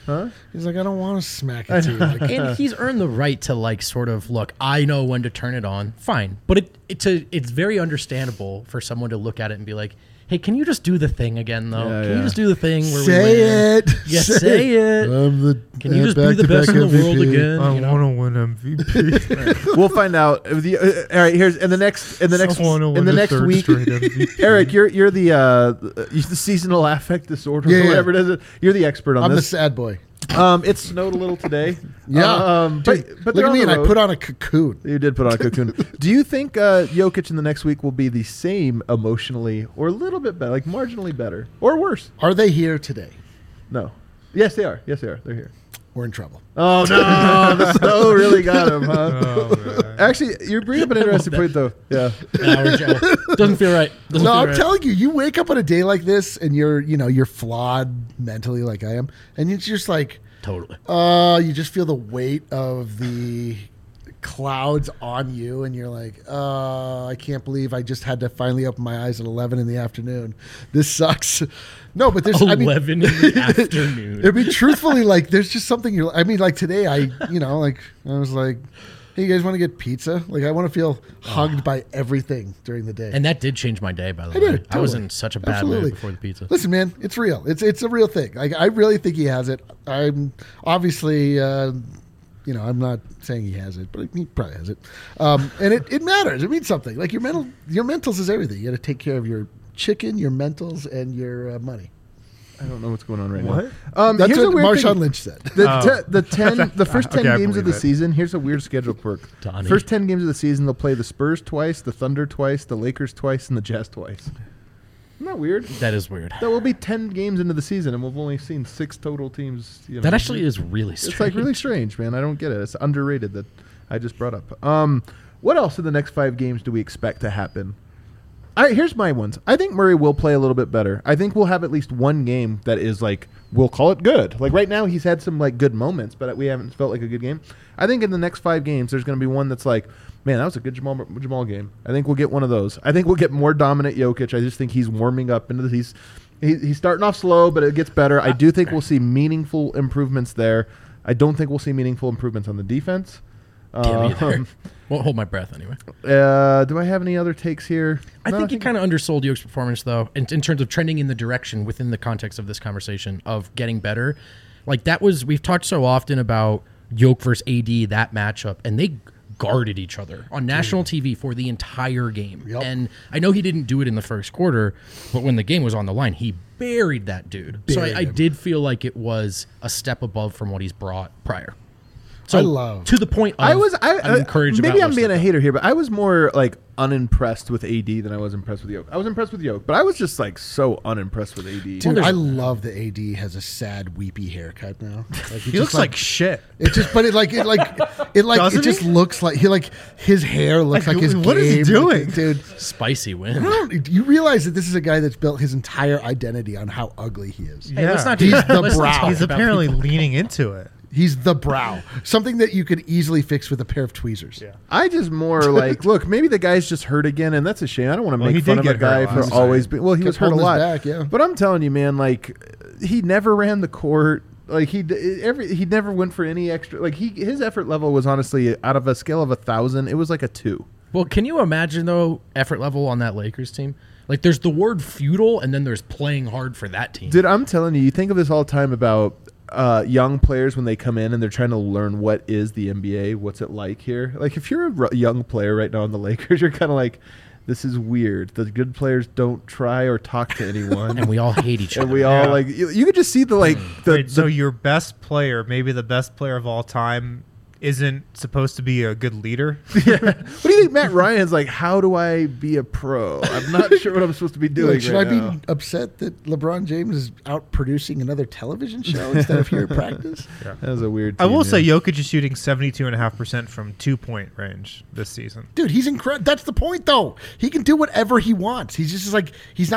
Huh? He's like, I don't want to smack it to you. Like, And he's earned the right to like sort of look. I know when to turn it on. Fine, but it it's a, it's very understandable for someone to look at it and be like, "Hey, can you just do the thing again, though? Yeah, can yeah. you just do the thing where say we win? it. Yeah, say it. I'm the Can you uh, just be the best in the back-to-back world M V P. again? I you know? want to win M V P. We'll find out. If the, uh, all right, here's in the next in the next I wanna in win the the next third week. straight M V P. Eric, you're you're the uh, the seasonal affect disorder, Yeah, or yeah. whatever it is. You're the expert on I'm the this. sad boy. Um, it snowed a little today. Yeah. um, but Dude, but look they're at on me, the and I road. put on a cocoon. You did put on a cocoon. Do you think uh, Jokic in the next week will be the same emotionally, or a little bit better, like marginally better, or worse? Are they here today? No. Yes, they are. Yes, they are. They're here. We're in trouble. Oh no, the snow really got him, huh? Oh, man. Actually, you bring up an interesting point, though. Yeah. Nah, we're jello. Doesn't feel right. Doesn't No, feel I'm right. telling you, you wake up on a day like this, and you're, you know, you're flawed mentally, like I am, and it's just like, Totally. uh, you just feel the weight of the clouds on you, and you're like, uh, I can't believe I just had to finally open my eyes at eleven in the afternoon. This sucks. No, but there's I mean, Eleven in the afternoon. I mean, truthfully, like, there's just something you're. I mean, like today, I, you know, like I was like, hey, you guys want to get pizza? Like, I want to feel hugged by everything during the day. And that did change my day, by the I way. did, I was totally. in such a bad Absolutely. mood before the pizza. Listen, man, it's real. It's it's a real thing. Like, I really think he has it. I'm obviously, uh, you know, I'm not saying he has it, but he probably has it. Um, and it, it matters. It means something. Like your mental, your mentals is everything. You got to take care of your chicken, your mentals, and your uh, money. I don't know what's going on right What? now. Um, That's here's a what weird Marshawn thing. Lynch said. The, Oh. te- the ten, the first ten Okay, I games of the believe it. season. Here's a weird schedule quirk. Donnie. First ten games of the season, they'll play the Spurs twice, the Thunder twice, the Lakers twice, and the Jazz twice. Isn't that weird? That is weird. That will be ten games into the season, and we've only seen six total teams. You know, That actually is really strange. It's like really strange, man. I don't get it. It's underrated that I just brought up. Um, what else in the next five games do we expect to happen? All right, here's my ones. I think Murray will play a little bit better. I think we'll have at least one game that is like, we'll call it good. Like right now, he's had some like good moments, but we haven't felt like a good game. I think in the next five games, there's going to be one that's like, man, that was a good Jamal Jamal game. I think we'll get one of those. I think we'll get more dominant Jokic. I just think he's warming up into the he's he, he's starting off slow, but it gets better. I do think we'll see meaningful improvements there. I don't think we'll see meaningful improvements on the defense. Damn either. Um, Won't hold my breath anyway. uh, do I have any other takes here? I No, think you kind of undersold Yoke's performance, though, in, in terms of trending in the direction within the context of this conversation of getting better. Like that was, we've talked so often about Yoke versus A D, that matchup, and they guarded each other on national T V for the entire game. Yep. And I know he didn't do it in the first quarter, but when the game was on the line, he buried that dude. so Buried I, I him. did feel like it was a step above from what he's brought prior. So I love- to the point of I was I, I'm encouraged. Maybe about I'm what's being to a come. hater here, but I was more like unimpressed with A D than I was impressed with Yoke. I was impressed with Yoke, but I was just like so unimpressed with A D. Dude, there's- I love the A D has a sad, weepy haircut now. Like, He looks like shit. it just, but it like it like it like Doesn't it just he? looks like he like his hair looks Like, like, his what is he game. doing? dude? Spicy win. I don't, you realize that this is a guy that's built his entire identity on how ugly he is. Hey, let's Yeah. not He's do- the let's not brow. talk He's about apparently people. leaning into it. He's the brow, something that you could easily fix with a pair of tweezers. Yeah. I just more like, look, maybe the guy's just hurt again, and that's a shame. I don't want to Well, make he fun did of a get hurt guy a lot. for always being. Well, he Kept was hurt a holding his lot. back, yeah. But I'm telling you, man, like he never ran the court. Like he d- every he never went for any extra. Like he his effort level was honestly out of a scale of a thousand, it was like a two. Well, can you imagine though effort level on that Lakers team? Like, there's the word futile, and then there's playing hard for that team. Dude, I'm telling you, you think of this all the time about uh, young players when they come in and they're trying to learn what is the N B A, what's it like here. Like, if you're a r- young player right now in the Lakers, you're kind of like, this is weird. The good players don't try or talk to anyone. and we all hate each And other. we all Yeah. like you, you could just see the like the, Wait, so the your best player, maybe the best player of all time, isn't supposed to be a good leader? yeah. What do you think Matt Ryan's like? How do I be a pro? I'm not sure what I'm supposed to be doing. Like, should right I be now. upset that LeBron James is out producing another television show instead of here at practice? That was a weird. I team, will yeah. say Jokic is shooting seventy-two point five percent from two-point range this season. Dude, he's incredible. That's the point, though. He can do whatever he wants. He's just like he's not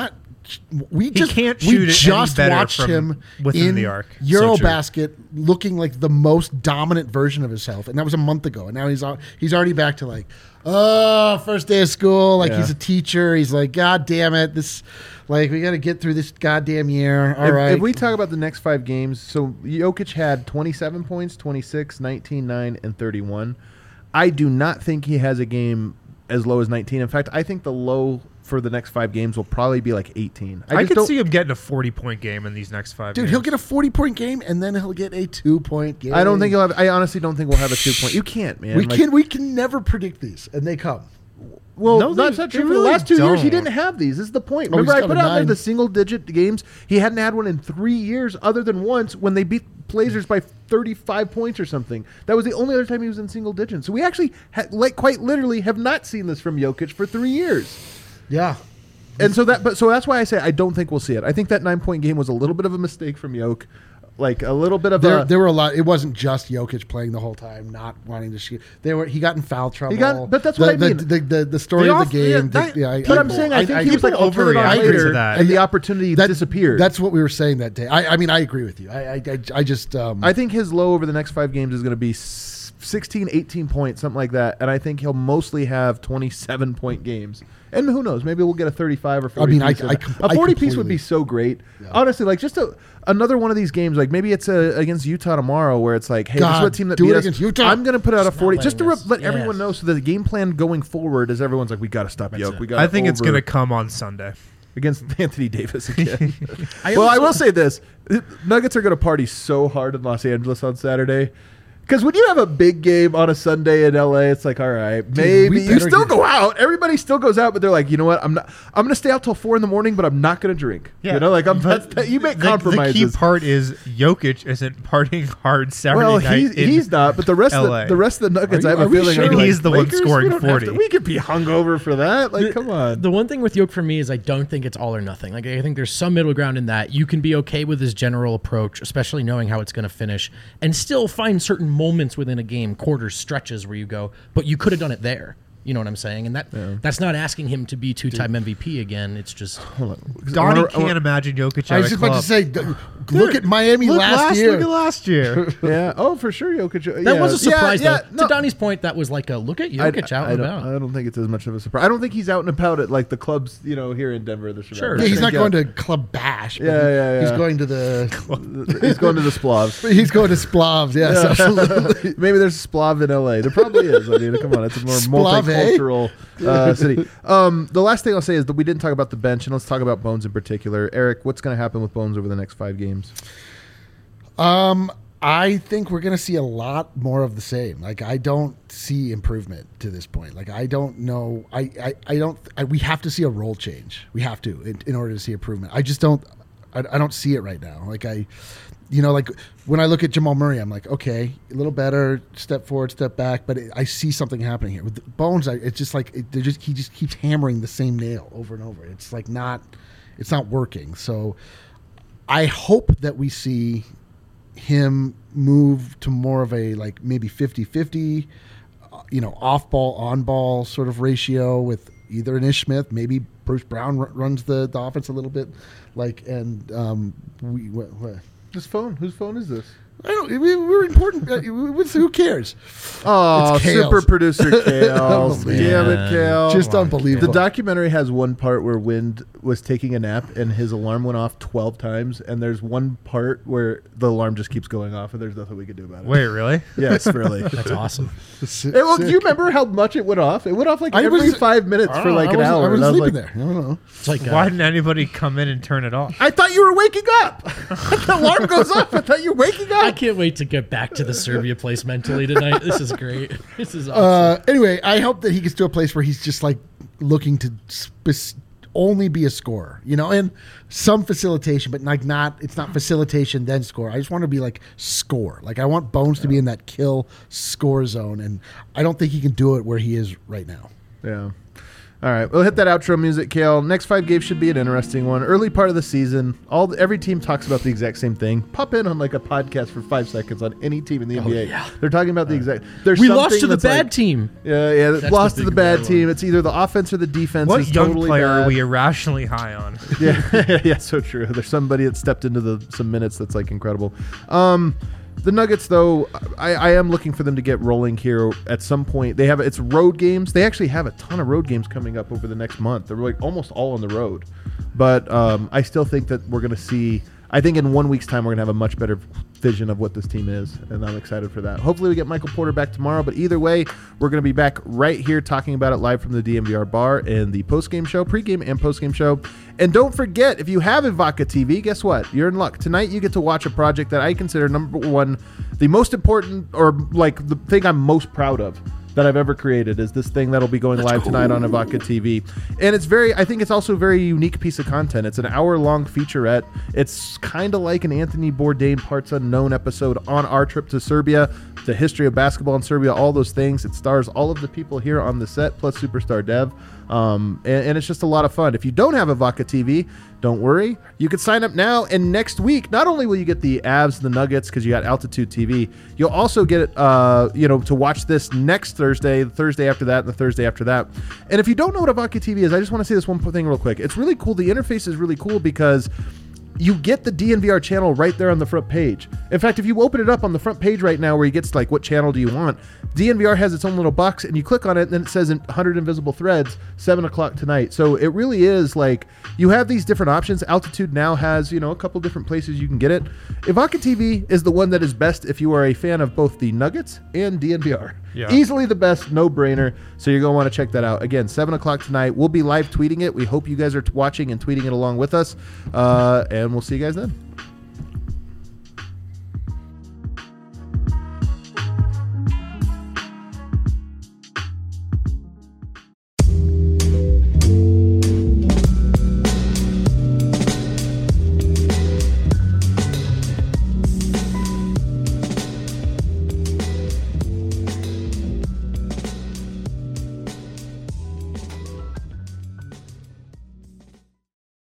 we just can't we shoot it any just better watched from him within in the arc. Eurobasket looking like the most dominant version of himself, and that was a month ago. And now he's al- he's already back to like, oh, first day of school. Like Yeah. he's a teacher. He's like, God damn it, this. Like, we got to get through this goddamn year. All if, right. if we talk about the next five games, so Jokic had twenty-seven points, twenty-six, nineteen, nine, and thirty-one. I do not think he has a game as low as nineteen. In fact, I think the low for the next five games will probably be like eighteen. I, just could don't- see him getting a forty-point game in these next five Dude, games. he'll get a forty-point game, and then he'll get a two-point game. I don't think he'll have. I honestly don't think we'll have a two point. You can't, man. We Like, can we can never predict these, and they come. Well, No, that's they- not they true. For really the last two years, he don't. didn't have these. This is the point. Oh, Remember, he's I got put a out there nine. the single-digit games. He hadn't had one in three years, other than once when they beat Blazers by thirty-five points or something. That was the only other time he was in single digits. So we actually, ha- like, quite literally, have not seen this from Jokic for three years. Yeah. And so that, but so that's why I say I don't think we'll see it. I think that nine-point game was a little bit of a mistake from Jokic. Like a little bit of There, a. there were a lot. It wasn't just Jokic playing the whole time, not wanting to shoot. They were. He got in foul trouble. got- but that's the, what I the, mean. The, the, the story The of off- the game. yeah, the- that- yeah, I- but I- I'm saying I, think he was people like, I'll turn it on overreact later, to that. and the opportunity that- disappeared. That's what we were saying that day. I, I mean, I agree with you. I, I, I, I just. Um, I think his low over the next five games is going to be s- sixteen, eighteen points, something like that. And I think he'll mostly have twenty-seven point games. And who knows? Maybe we'll get a thirty-five or forty. I mean, I- piece of I that. com- a I forty piece would completely- be so great. Yeah. Honestly, like just a, another one of these games. Like maybe it's a, against Utah tomorrow, where it's like, hey, this is God, what team that do beat it us. against Utah. I'm going to put out a Just not forty, just to letting re- us- let everyone yes. know, so that the game plan going forward is everyone's like, we got to stop That's Yoke. it. We got. I think it's going to come on Sunday. against Anthony Davis again. I well, I also- will say this: Nuggets are going to party so hard in Los Angeles on Saturday. Because when you have a big game on a Sunday in L A, it's like, all right, maybe we you better still get- go out. Everybody still goes out, but they're like, you know what? I'm not. I'm going to stay out till four in the morning, but I'm not going to drink. You know, like I'm. That's, that, you make the, compromises. The key part is Jokic isn't partying hard Saturday well, night. he's, in he's not, but the rest of L A. the, the rest of the Nuggets, Are I you- have are a we feeling, sure? are And like, he's the one Lakers, scoring we don't have to- forty. we could be hungover for that. Like, come on. The one thing with Yoke for me is I don't think it's all or nothing. Like I think there's some middle ground in that. You can be okay with his general approach, especially knowing how it's going to finish, and still find certain moments within a game, quarters, stretches where you go, but you could have done it there. You know what I'm saying? And that that's not asking him to be two-time M V P again. It's just Donnie I wanna- I can't wanna- imagine Jokic I at was a just club. about to say, d- look at Miami Look last, year. Look at last year. Yeah. Oh, for sure, Jokic. that yeah. was a surprise Yeah, though. yeah, no. To Donnie's point, that was like a look at I, Jokic out I and don't, about. I don't think it's as much of a surprise. I don't think he's out and about at like the clubs, you know, here in Denver. The Sure. Yeah, he's not yeah. going to Club Bash. but Yeah, he- yeah, He's yeah. going to the. He's going to the Splavs. He's going to Splavs. Yes, absolutely. Maybe there's a Splav in L A. There probably is. I mean, come on, it's a more Splav, eh? multicultural uh, city. Um, the last thing I'll say is that we didn't talk about the bench, and let's talk about Bones in particular. Eric, what's going to happen with Bones over the next five games? Um, I think we're going to see a lot more of the same. Like, I don't see improvement to this point. Like, I don't know. I, I, I don't. I, we have to see a role change. We have to in, in order to see improvement. I just don't. I, I don't see it right now. Like I, you know, like when I look at Jamal Murray, I'm like, okay, a little better, step forward, step back, but it, I see something happening here with the Bones. I, it's just like it, they're just he just keeps hammering the same nail over and over. It's like not, it's not working. So, I hope that we see him move to more of a like maybe fifty-fifty, uh, you know, off ball, on ball sort of ratio with either an Ish Smith, maybe Bruce Brown r- runs the, the offense a little bit, like, and um, we, what, what? This phone. Whose phone is this? I don't. We, we're important. Uh, what's- who cares? Oh, It's Kale's. super producer Kale. Oh, Damn it, man. Kale. Just come on, unbelievable. The documentary has one part where Wind was taking a nap and his alarm went off twelve times, and there's one part where the alarm just keeps going off, and there's nothing we can do about it. Wait, really? Yes, really. That's awesome. Si- Hey, well, do sick. you remember how much it went off? It went off like I every was- five minutes I for don't know, like I an was, hour. I was and I was sleeping like, there. I don't know. It's like Why uh, didn't anybody come in and turn it off? I thought you were waking up. The alarm goes off. I thought you were waking I up. can't wait to get back to the Serbia place mentally tonight. This is great. This is awesome. Uh, anyway, I hope that he gets to a place where he's just like looking to spe- only be a scorer, you know, and some facilitation, but like not, it's not facilitation then score. I just want to be like score. Like I want Bones to be in that kill score zone, and I don't think he can do it where he is right now. Yeah. All right, we'll hit that outro music, Kale. Next five games should be an interesting one. Early part of the season, all the, every team talks about the exact same thing. Pop in on like a podcast for five seconds on any team in the N B A. yeah. They're talking about the exact. There's We lost something to the that's bad like- team. Yeah, yeah, That's lost the to the big bad bad team. one. It's either the offense or the defense. What is young totally player bad. are we irrationally high on? Yeah, yeah, so true. There's somebody that stepped into the some minutes that's like incredible. Um, the Nuggets, though, I, I am looking for them to get rolling here at some point. They have it's road games. They actually have a ton of road games coming up over the next month. They're like almost all on the road, but um, I still think that we're going to see. I think in one week's time we're going to have a much better vision of what this team is, and I'm excited for that. Hopefully we get Michael Porter back tomorrow, but either way, we're going to be back right here talking about it live from the D M V R bar and the post-game show, pre-game and post-game show. And don't forget, if you have Vodka T V, guess what? You're in luck. Tonight you get to watch a project that I consider number one, the most important, or like the thing I'm most proud of that I've ever created is this thing that'll be going live tonight on Vodka T V. And it's very, I think it's also a very unique piece of content. It's an hour-long featurette. It's kind of like an Anthony Bourdain Parts Unknown episode on our trip to Serbia, the history of basketball in Serbia, all those things. It stars all of the people here on the set, plus Superstar Dev. Um, and, and it's just a lot of fun. If you don't have a Vodka T V, don't worry. You can sign up now, and next week, not only will you get the Avs and the Nuggets because you got Altitude T V, you'll also get it, uh, you know, to watch this next Thursday, the Thursday after that, and the Thursday after that. And if you don't know what a Vodka T V is, I just want to say this one thing real quick. It's really cool. The interface is really cool because you get the D N V R channel right there on the front page. In fact, if you open it up on the front page right now where you get like what channel do you want, D N V R has its own little box, and you click on it and then it says in one hundred Invisible Threads, seven o'clock tonight. So it really is like you have these different options. Altitude now has, you know, a couple different places you can get it. Vodka T V is the one that is best if you are a fan of both the Nuggets and D N V R. Yeah. Easily the best, no brainer. So you're going to want to check that out. Again, seven o'clock tonight. We'll be live tweeting it. We hope you guys are t- watching and tweeting it along with us. Uh, and we'll see you guys then.